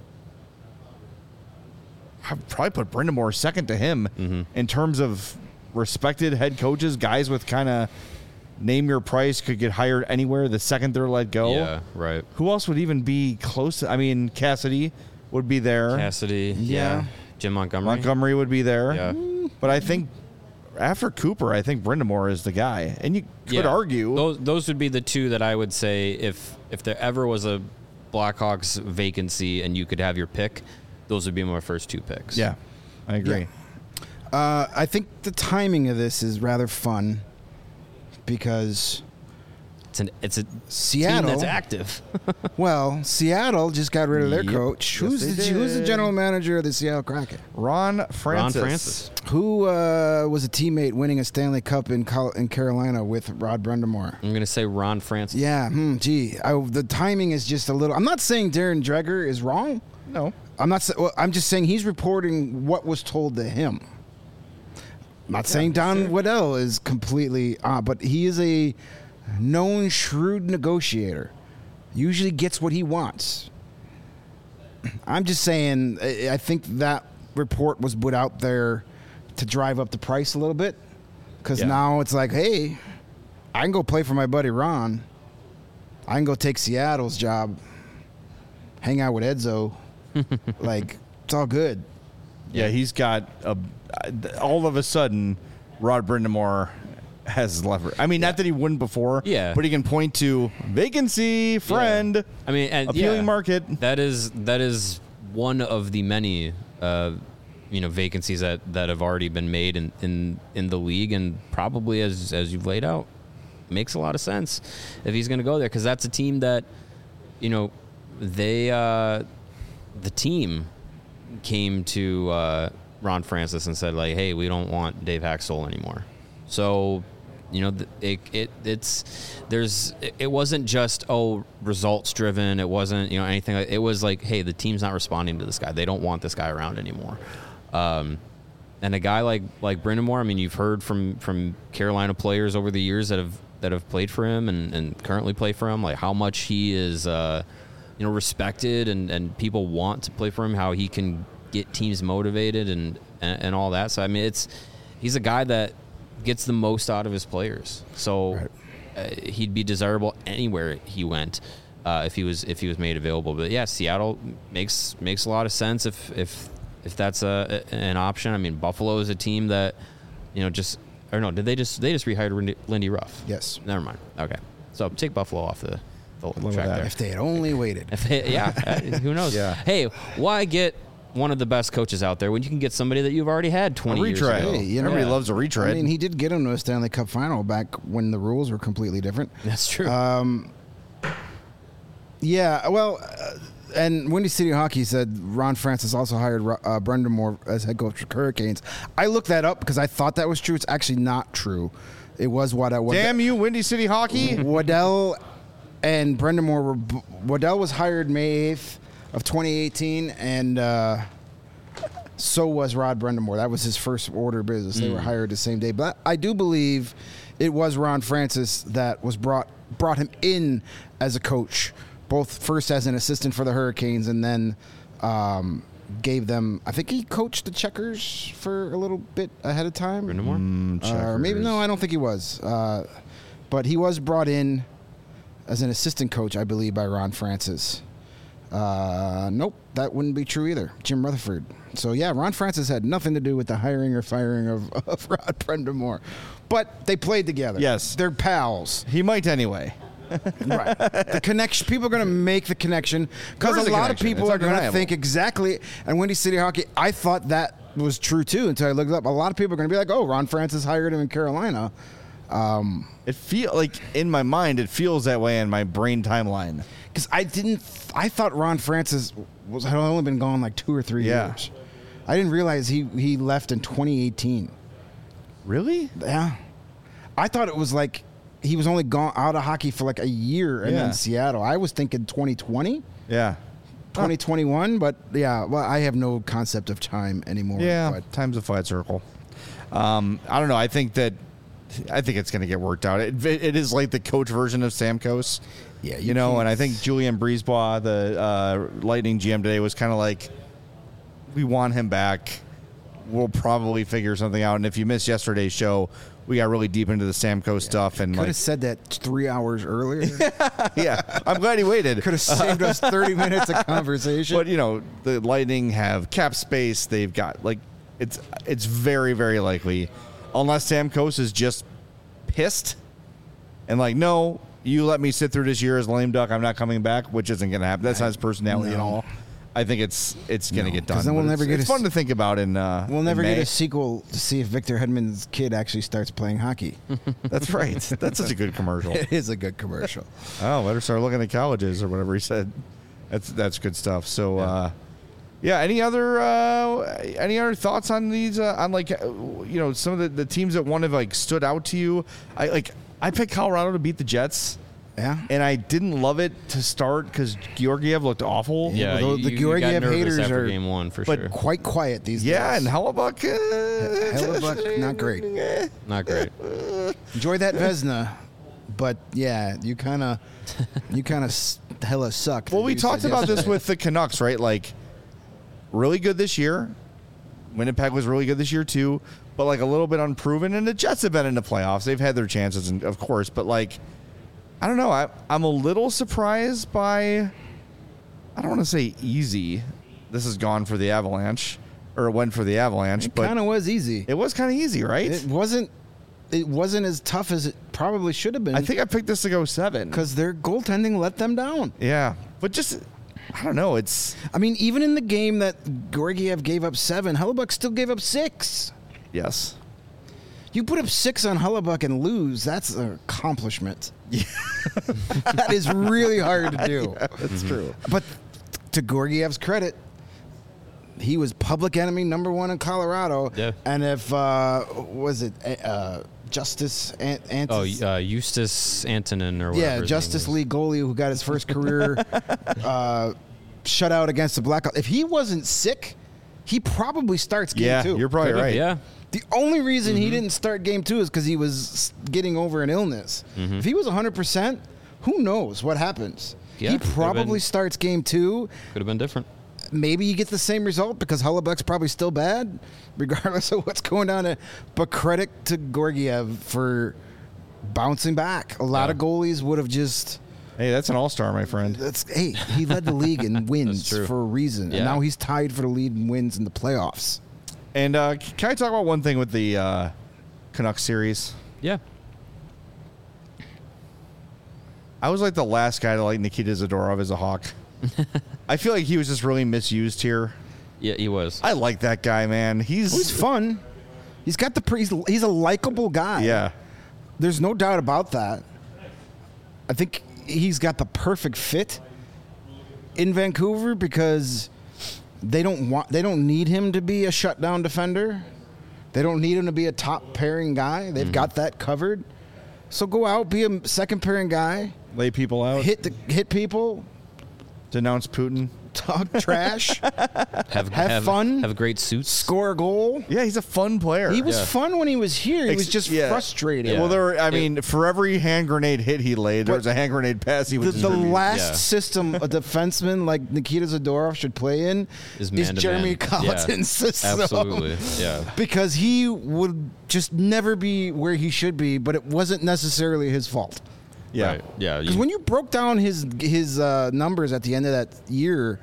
I'd probably put Brind'Amour second to him Mm-hmm. in terms of respected head coaches, guys with kind of name your price, could get hired anywhere the second they're let go. Yeah, right. Who else would even be close to, I mean, Cassidy would be there. Cassidy. Yeah. Yeah. Jim Montgomery. Montgomery would be there. Yeah. But I think after Cooper, I think Brind'Amour is the guy. And you could Yeah. argue. Those those would be the two that I would say if if there ever was a Blackhawks vacancy and you could have your pick, those would be my first two picks. Yeah, I agree. Uh, I think the timing of this is rather fun because It's an it's a Seattle, team that's active. well, Seattle just got rid of their Yep. coach. Yes, Who's they the who's the did. general manager of the Seattle Kraken? Ron Francis. Ron Francis. Who uh, was a teammate winning a Stanley Cup in Col- in Carolina with Rod Brind'Amour? I'm gonna say Ron Francis. Yeah, hmm, gee, I, the timing is just a little. I'm not saying Darren Dreger is wrong. No. I'm not. sa- Well, I'm just saying he's reporting what was told to him. I'm not saying Don Waddell is completely, uh, but he is a known shrewd negotiator. Usually gets what he wants. I'm just saying. I I think that report was put out there to drive up the price a little bit, because Yeah. now it's like, hey, I can go play for my buddy Ron. I can go take Seattle's job, hang out with Edzo. Like, it's all good. Yeah, he's got a. All of a sudden, Rod Brind'Amour has leverage. I mean, not that he wouldn't before. Yeah. But he can point to vacancy, friend. Yeah. I mean, and appealing yeah, market. That is that is one of the many, uh, you know, vacancies that, that have already been made in, in, in the league, and probably as as you've laid out, makes a lot of sense if he's going to go there, because that's a team that, you know, they uh, the team came to uh, Ron Francis and said, like, hey, we don't want Dave Haxtell anymore. So, you know, it, it it's there's it wasn't just oh results driven. It wasn't, you know, anything like, it was like, hey, the team's not responding to this guy. They don't want this guy around anymore. Um, and a guy like like Brind'Amour, I mean, you've heard from from Carolina players over the years that have that have played for him and, and currently play for him, like how much he is uh, you know, respected and, and people want to play for him, how he can get teams motivated and, and and all that. So I mean, it's he's a guy that gets the most out of his players. So Right. uh, he'd be desirable anywhere he went uh, if he was if he was made available. But yeah, Seattle makes makes a lot of sense if if if that's a, an option. I mean, Buffalo is a team that, you know, just or no, did they just they just rehired Lindy, Lindy Ruff? Yes. Never mind. Okay, so take Buffalo off the, the Love track that. there. If they had only waited. If they, yeah, uh, who knows? Yeah. Hey, why get one of the best coaches out there when you can get somebody that you've already had twenty years retread. ago? Hey, you know, Everybody Yeah. loves a retread. I mean, he did get him to a Stanley Cup final back when the rules were completely different. That's true. Um, yeah, well, uh, and Windy City Hockey said Ron Francis also hired uh, Brind'Amour as head coach for Hurricanes. I looked that up because I thought that was true. It's actually not true. It was what I was. Damn you, Windy City Hockey. Waddell and Brind'Amour were. Waddell was hired May eighth of twenty eighteen, and uh, so was Rod Brind'Amour. That was his first order of business. They were hired the same day. But I do believe it was Ron Francis that was brought brought him in as a coach, both first as an assistant for the Hurricanes and then um, gave them. I think he coached the Checkers for a little bit ahead of time. Brind'Amour? Uh, or maybe no, I don't think he was. Uh, but he was brought in as an assistant coach, I believe, by Ron Francis. Uh, nope, that wouldn't be true either. Jim Rutherford. So yeah, Ron Francis had nothing to do with the hiring or firing of, of Rod Brind'Amour. But they played together. Yes. They're pals. He might anyway. Right. The connection. People are going to make the connection because There is a a lot of connection. people It's are going to undeniable. think exactly. And Windy City Hockey, I thought that was true too until I looked it up. A lot of people are going to be like, "Oh, Ron Francis hired him in Carolina." Um, It feel like in my mind, it feels that way in my brain timeline. Because I didn't, I thought Ron Francis was had only been gone like two or three Yeah. years. I didn't realize he he left in twenty eighteen. Really? Yeah, I thought it was like he was only gone out of hockey for like a year and Yeah. then Seattle. I was thinking twenty twenty, Yeah. twenty twenty-one, but yeah, well, I have no concept of time anymore. Yeah. but Time's a flat circle. Um, I don't know. I think that. I think it's going to get worked out. It, it is like the coach version of Stamkos. Yeah, you, you know, can't- and I think Julian Brisebois, the uh, Lightning G M today, was kind of like, we want him back. We'll probably figure something out. And if you missed yesterday's show, we got really deep into the Stamkos stuff. And could like, have said that three hours earlier. yeah, I'm glad he waited. Could have saved us thirty minutes of conversation. But you know, the Lightning have cap space. They've got like it's it's very very likely, unless Stamkos is just pissed and like, no, you let me sit through this year as a lame duck. I'm not coming back, which isn't going to happen. That's not his personality at No. all. I think it's it's going to No, get 'cause done. then we'll But never it's, get it's a fun s- to think about. In uh, We'll in never get May. a sequel to see if Victor Hedman's kid actually starts playing hockey. That's right. That's such a good commercial. It is a good commercial. Oh, better start looking at colleges or whatever he said. That's that's good stuff. So, uh, yeah. Any other uh, any other thoughts on these? Uh, on like uh, you know some of the, the teams that one have like stood out to you. I like I picked Colorado to beat the Jets, Yeah. and I didn't love it to start because Georgiev looked awful. Yeah, well, you, the you got Georgiev nervous haters after are- game one for but sure. Quite quiet these Yeah, days. and Hellebuck. Uh, Hellebuck, not great. Not great. Enjoy that Vesna, but yeah, you kind of, you kind of hella suck. Well, we You talked said about this yesterday. with the Canucks, right? Like, really good this year. Winnipeg was really good this year, too, but like a little bit unproven. And the Jets have been in the playoffs. They've had their chances, and of course, but like, I don't know. I, I'm a little surprised by, I don't want to say easy. This has gone for the Avalanche, or it went for the Avalanche, It but kind of was easy. it was kind of easy, right? It wasn't it wasn't as tough as it probably should have been. I think I picked this to go seven. because their goaltending let them down. Yeah, but just I don't know. It's I mean, even in the game that Georgiev gave up seven, Hellebuck still gave up six. yes. You put up six on Hellebuck and lose, that's an accomplishment. Yeah. That is really hard to do. Yeah, that's true. But to Georgiev's credit, he was public enemy number one in Colorado. Yeah. And if, uh, was it uh, Justice Ant- Oh, Antis? uh, Eustace Antonin or whatever. Yeah, his name Justice is. League goalie who got his first career uh, shutout against the Blackhawks. If he wasn't sick, he probably starts game Yeah, two. you're probably Could've, right. Yeah. The only reason he didn't start game two is because he was getting over an illness. If he was one hundred percent, who knows what happens? Yeah, he could've probably been- starts game two. Could have been different. Maybe you get the same result because Hellebuck's probably still bad, regardless of what's going on. But credit to Georgiev for bouncing back. A lot Yeah. of goalies would have just. Hey, that's an all-star, my friend. That's hey, he led the league in wins true. for a reason, Yeah. and now he's tied for the lead in wins in the playoffs. And uh, can I talk about one thing with the uh, Canucks series? Yeah. I was like the last guy to like Nikita Zadorov as a Hawk. I feel like he was just really misused here. Yeah, he was. I like that guy, man. He's, He's fun. He's got the pre- he's, he's a likable guy. yeah. There's no doubt about that. I think he's got the perfect fit in Vancouver because they don't want they don't need him to be a shutdown defender. They don't need him to be a top pairing guy. They've got that covered. So go out, be a second pairing guy, Lay people out. hit the hit people, Denounce Putin. talk trash, Have, have fun. Have great suits. score a goal. Yeah, he's a fun player. He was Yeah. fun when he was here. He Ex- was just yeah. frustrated. Yeah. Well, there were, I It- mean, for every hand grenade hit he laid, there But was a hand grenade pass he The, would the distribute. last Yeah. system a defenseman like Nikita Zadorov should play in Is is, man to Jeremy man. Colleton's Yeah. system. Absolutely. Yeah. Because he would just never be where he should be, but it wasn't necessarily his fault. Yeah. Right. Yeah. Because you- when you broke down his his uh, numbers at the end of that year,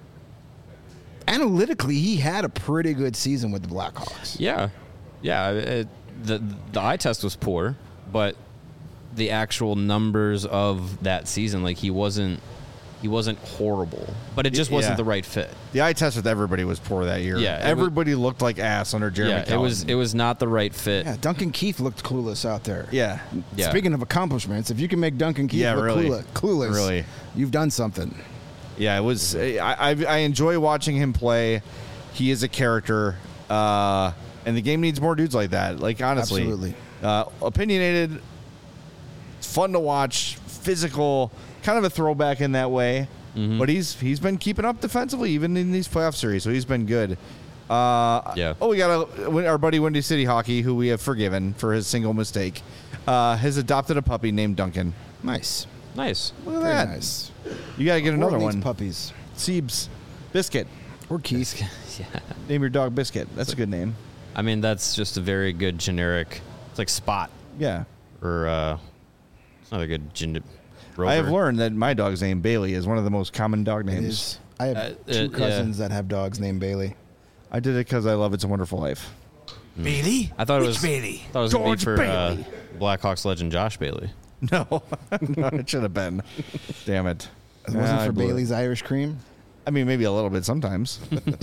analytically he had a pretty good season with the Blackhawks. Yeah, yeah. It, the the eye test was poor, but the actual numbers of that season, like he wasn't he wasn't horrible, but it just wasn't Yeah. the right fit. The eye test with everybody was poor that year. Yeah, it was- Everybody looked like ass under Jeremy yeah, it was Colleton. it was not the right fit. Yeah, Duncan Keith looked clueless out there. Yeah. Yeah. Speaking of accomplishments, if you can make Duncan Keith Yeah, look really. clueless, clueless, Really. you've done something. Yeah, it was. I, I I enjoy watching him play. He is a character, uh, and the game needs more dudes like that. Like honestly, Absolutely. uh, opinionated, fun to watch, physical, kind of a throwback in that way. Mm-hmm. But he's he's been keeping up defensively even in these playoff series, so he's been good. Uh, Yeah. Oh, we got a, our buddy Windy City Hockey, who we have forgiven for his single mistake, uh, has adopted a puppy named Duncan. Nice. Nice. Look at Very that. nice. You got to get another Or needs one. Puppies. Siebes. Biscuit. Or Keith. Yeah. Name your dog Biscuit. That's a good name. I mean, that's just a very good generic. It's like Spot Yeah. or uh, it's not a good gender. I have learned that my dog's name Bailey is one of the most common dog It names. is. I have Uh, two uh, cousins that have dogs named Bailey. I did it because I love It's a Wonderful Life. Bailey? I thought it Which was. Bailey? Thought it was gonna be George for uh, Bailey. Blackhawks legend Josh Bailey. No, no, it should have been. Damn it! It wasn't Ah, I for blew it. Bailey's Irish Cream. I mean, maybe a little bit sometimes.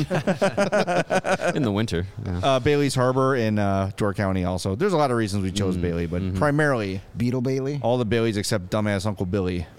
In the winter. Yeah. uh, Bailey's Harbor in uh, Door County. Also, there's a lot of reasons we chose Mm-hmm. Bailey, but primarily Beetle Bailey. all the Baileys except dumbass Uncle Billy.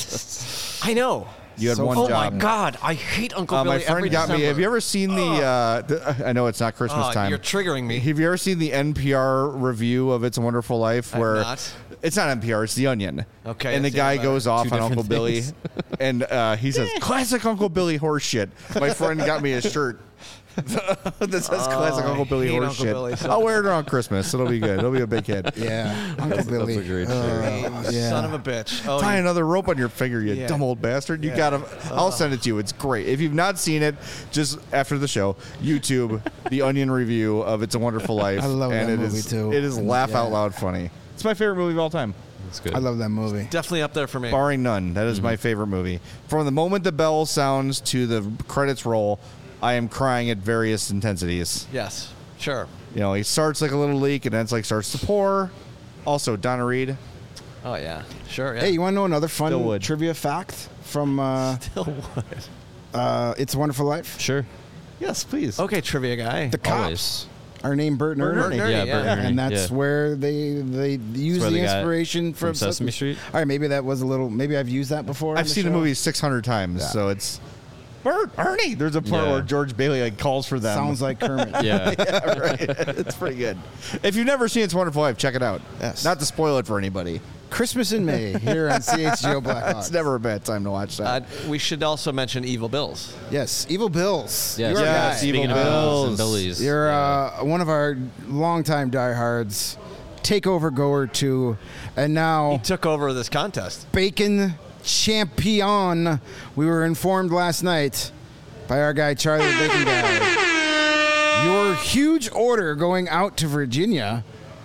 I know. You had So one Oh job. my God, I hate Uncle Uh, Billy. my friend every got me. December. Have you ever seen the, uh, the? I know it's not Christmas Oh, time. You're triggering me. Have you ever seen the N P R review of It's a Wonderful Life? I've Where not. it's not N P R, it's The Onion. Okay, and the that's guy even better. goes off Two on different Uncle Billy, things. and uh, he says, "Classic Uncle Billy horse shit." My friend got me a shirt that says "Classic Oh, Uncle I Billy hate horse Uncle shit." Billy so I'll wear it around Christmas. It'll be good. It'll be a big hit. Yeah, Uncle Billy. a great Uh, You yeah. Son of a bitch. Oh, Tie you- another rope on your finger, you Yeah. dumb old bastard. You Yeah. got to I'll send it to you. It's great. If you've not seen it, just after the show, YouTube the Onion review of It's a Wonderful Life. I love and that it movie, is- too. It is laugh Yeah. out loud funny. It's my favorite movie of all time. That's good. I love that movie. definitely up there for me. Barring none. That is my favorite movie. From the moment the bell sounds to the credits roll, I am crying at various intensities. Yes. Sure. You know, he starts like a little leak and then it's like starts to pour. Also, Donna Reed. Oh yeah. Sure. Yeah. Hey, you want to know another fun Still would. trivia fact from uh, Still would. uh, It's a Wonderful Life? Sure. Yes, please. Okay, trivia guy. The cops Always. are named Bert and Bert and Ernie. Ernie. Yeah, yeah. Bert and Ernie. And that's yeah. where they they use where the they got it inspiration from, from Sesame Street? All right, maybe that was a little. Maybe I've used that before. on I've seen the show. movie six hundred times, Yeah. so it's Bert, Ernie. There's a part Yeah. where George Bailey like calls for them. Sounds like Kermit. Yeah. yeah, right. It's pretty good. If you've never seen It's a Wonderful Life, check it out. Yes. Not to spoil it for anybody. Christmas in May here on C H G O Blackhawks. It's never a bad time to watch Uh, that. we should also mention Evil Bills. Yes, Evil Bills. Yes. You're a Yes, guy. Evil Speaking of Bills. and Billies. You're yeah. uh, one of our longtime diehards, takeover goer too, and He now took over this contest. Bacon Champion. We were informed last night by our guy Charlie the Bacon Guy. Your huge order going out to Virginia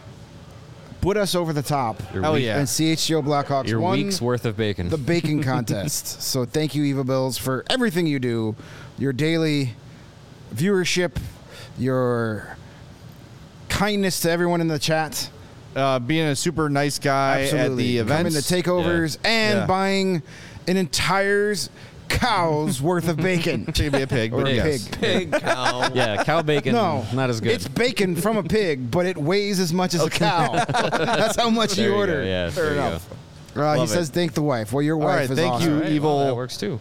put us over the top. Your Hell week- yeah. And C H G O Blackhawks Your won week's worth of bacon. the bacon contest. So thank you, Eva Bills, for everything you do, your daily viewership, your kindness to everyone in the chat. Uh, being a super nice guy at the Coming events. to takeovers and Yeah. buying an entire cow's worth of bacon. Should be a pig, Or but a yes. pig. Pig cow. yeah, cow bacon. No, not as good. It's bacon from a pig, but it weighs as much as a cow. That's how much there you you order. Go. Yeah, Fair there you enough. go. Uh, he Love it. says, "Thank the wife." Well, your All wife right, is thank awesome. you, All right, evil well, that works too.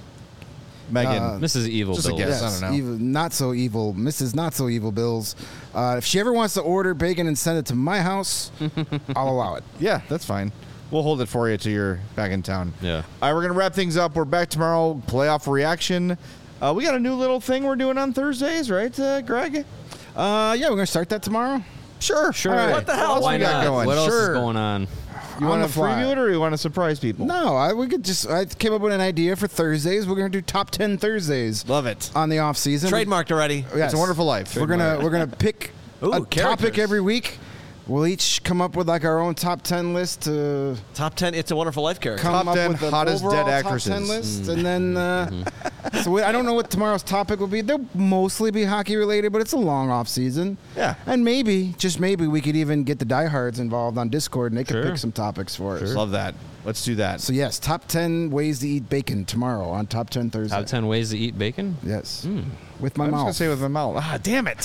Megan. Uh, Missus Evil just a Bills. guess. Yes, I don't know. evil, not so evil, Missus Not So Evil Bills. Uh, if she ever wants to order bacon and send it to my house, I'll allow it. Yeah, that's fine. We'll hold it for you till you're back in town. Yeah. All right, we're going to wrap things up. We're back tomorrow. Playoff reaction. Uh, we got a new little thing we're doing on Thursdays, right, uh, Greg? Uh, yeah, we're gonna start that tomorrow. Sure. Sure. All right. What the hell? What else Why we got not? going? What else Sure. is going on? You On want the to fly. preview it or you want to surprise people? No, I, we could just. I came up with an idea for Thursdays. We're gonna do top ten Thursdays Love it. on the off season. Trademarked already. Yes. It's a Wonderful Life. We're gonna we're gonna pick Ooh, a topic characters. every week. We'll each come up with like our own top ten list to Top ten It's a Wonderful Life character. come Top up ten with an hottest overall dead top ten actresses. list, and then uh, so we, I don't know what tomorrow's topic will be. They'll mostly be hockey related, but it's a long off season. Yeah. and maybe just maybe we could even get the diehards involved on Discord, and they could Sure. pick some topics for us. Love that. Let's do that. So yes, top ten ways to eat bacon tomorrow on Top ten Thursday. Top ten ways to eat bacon. Yes, with my I was mouth. going to say with my mouth. Ah, damn it.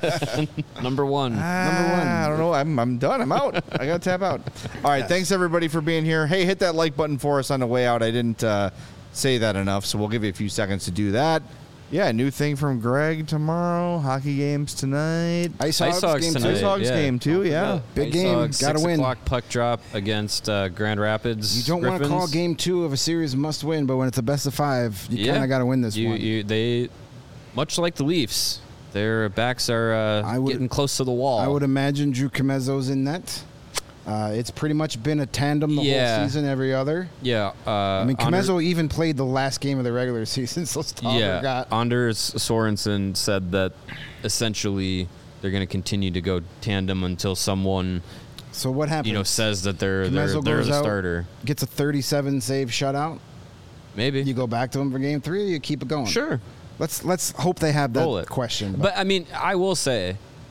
Number one. Number one. Ah, I don't know. I'm, I'm done. I'm out. I got to tap out. All right. Thanks, everybody, for being here. Hey, hit that like button for us on the way out. I didn't uh, say that enough, so we'll give you a few seconds to do that. Yeah, new thing from Greg tomorrow. Hockey games tonight. Ice Ice Hogs, Hogs game tonight. two. Ice Hogs yeah. game, too, yeah. Big Ice game. Hogs, Gotta six win. o'clock puck drop against uh, Grand Rapids. You don't want to Griffins. call game two of a series must win, but when it's a best of five, you Yeah. kind of got to win this you, one. You, they, much like the Leafs, their backs are uh, I would- getting close to the wall. I would imagine Drew Comezzo's in net. Uh, it's pretty much been a tandem the Yeah. whole season, every other. yeah. Uh, I mean, Ander- Comezzo even played the last game of the regular season, so Stauber Yeah, got. Anders Sorensen said that essentially they're going to continue to go tandem until someone So what happens? you know says that they're they're, Comezzo they're goes the out, starter. Gets a thirty-seven save shutout. Maybe. You go back to him for game three, or you keep it going. Sure. Let's let's hope they have that Roll it. question. But I mean, I will say,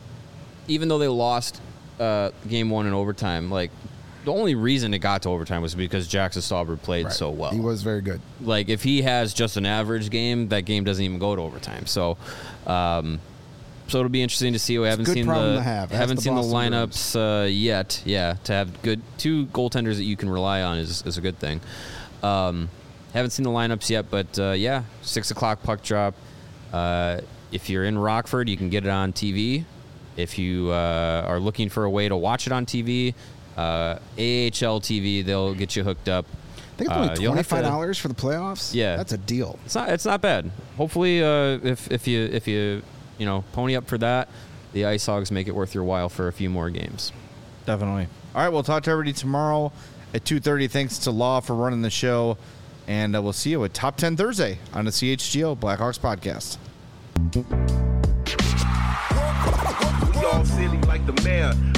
even though they lost uh, game one in overtime, like the only reason it got to overtime was because Jackson Stauber played Right. so well. he was very good. Like if he has just an average game, that game doesn't even go to overtime. So, um, so it'll be interesting to see. We haven't good seen problem the to have. Ask haven't the seen the Boston lineups uh, yet. Yeah, to have good two goaltenders that you can rely on is is a good thing. Um, haven't seen the lineups yet, but uh, yeah, six o'clock puck drop. Uh, if you're in Rockford, you can get it on T V. If you uh, are looking for a way to watch it on T V, uh, A H L T V, they'll get you hooked up. I think it's Uh, only you'll have to- twenty-five dollars for the playoffs. Yeah. that's a deal. It's not. It's not bad. Hopefully, uh, if if you if you you know pony up for that, the Ice Hogs make it worth your while for a few more games. Definitely. All right, we'll talk to everybody tomorrow at two thirty. Thanks to Law for running the show. And uh, we'll see you at Top ten Thursday on the C H G O Blackhawks podcast. We all silly like the mayor.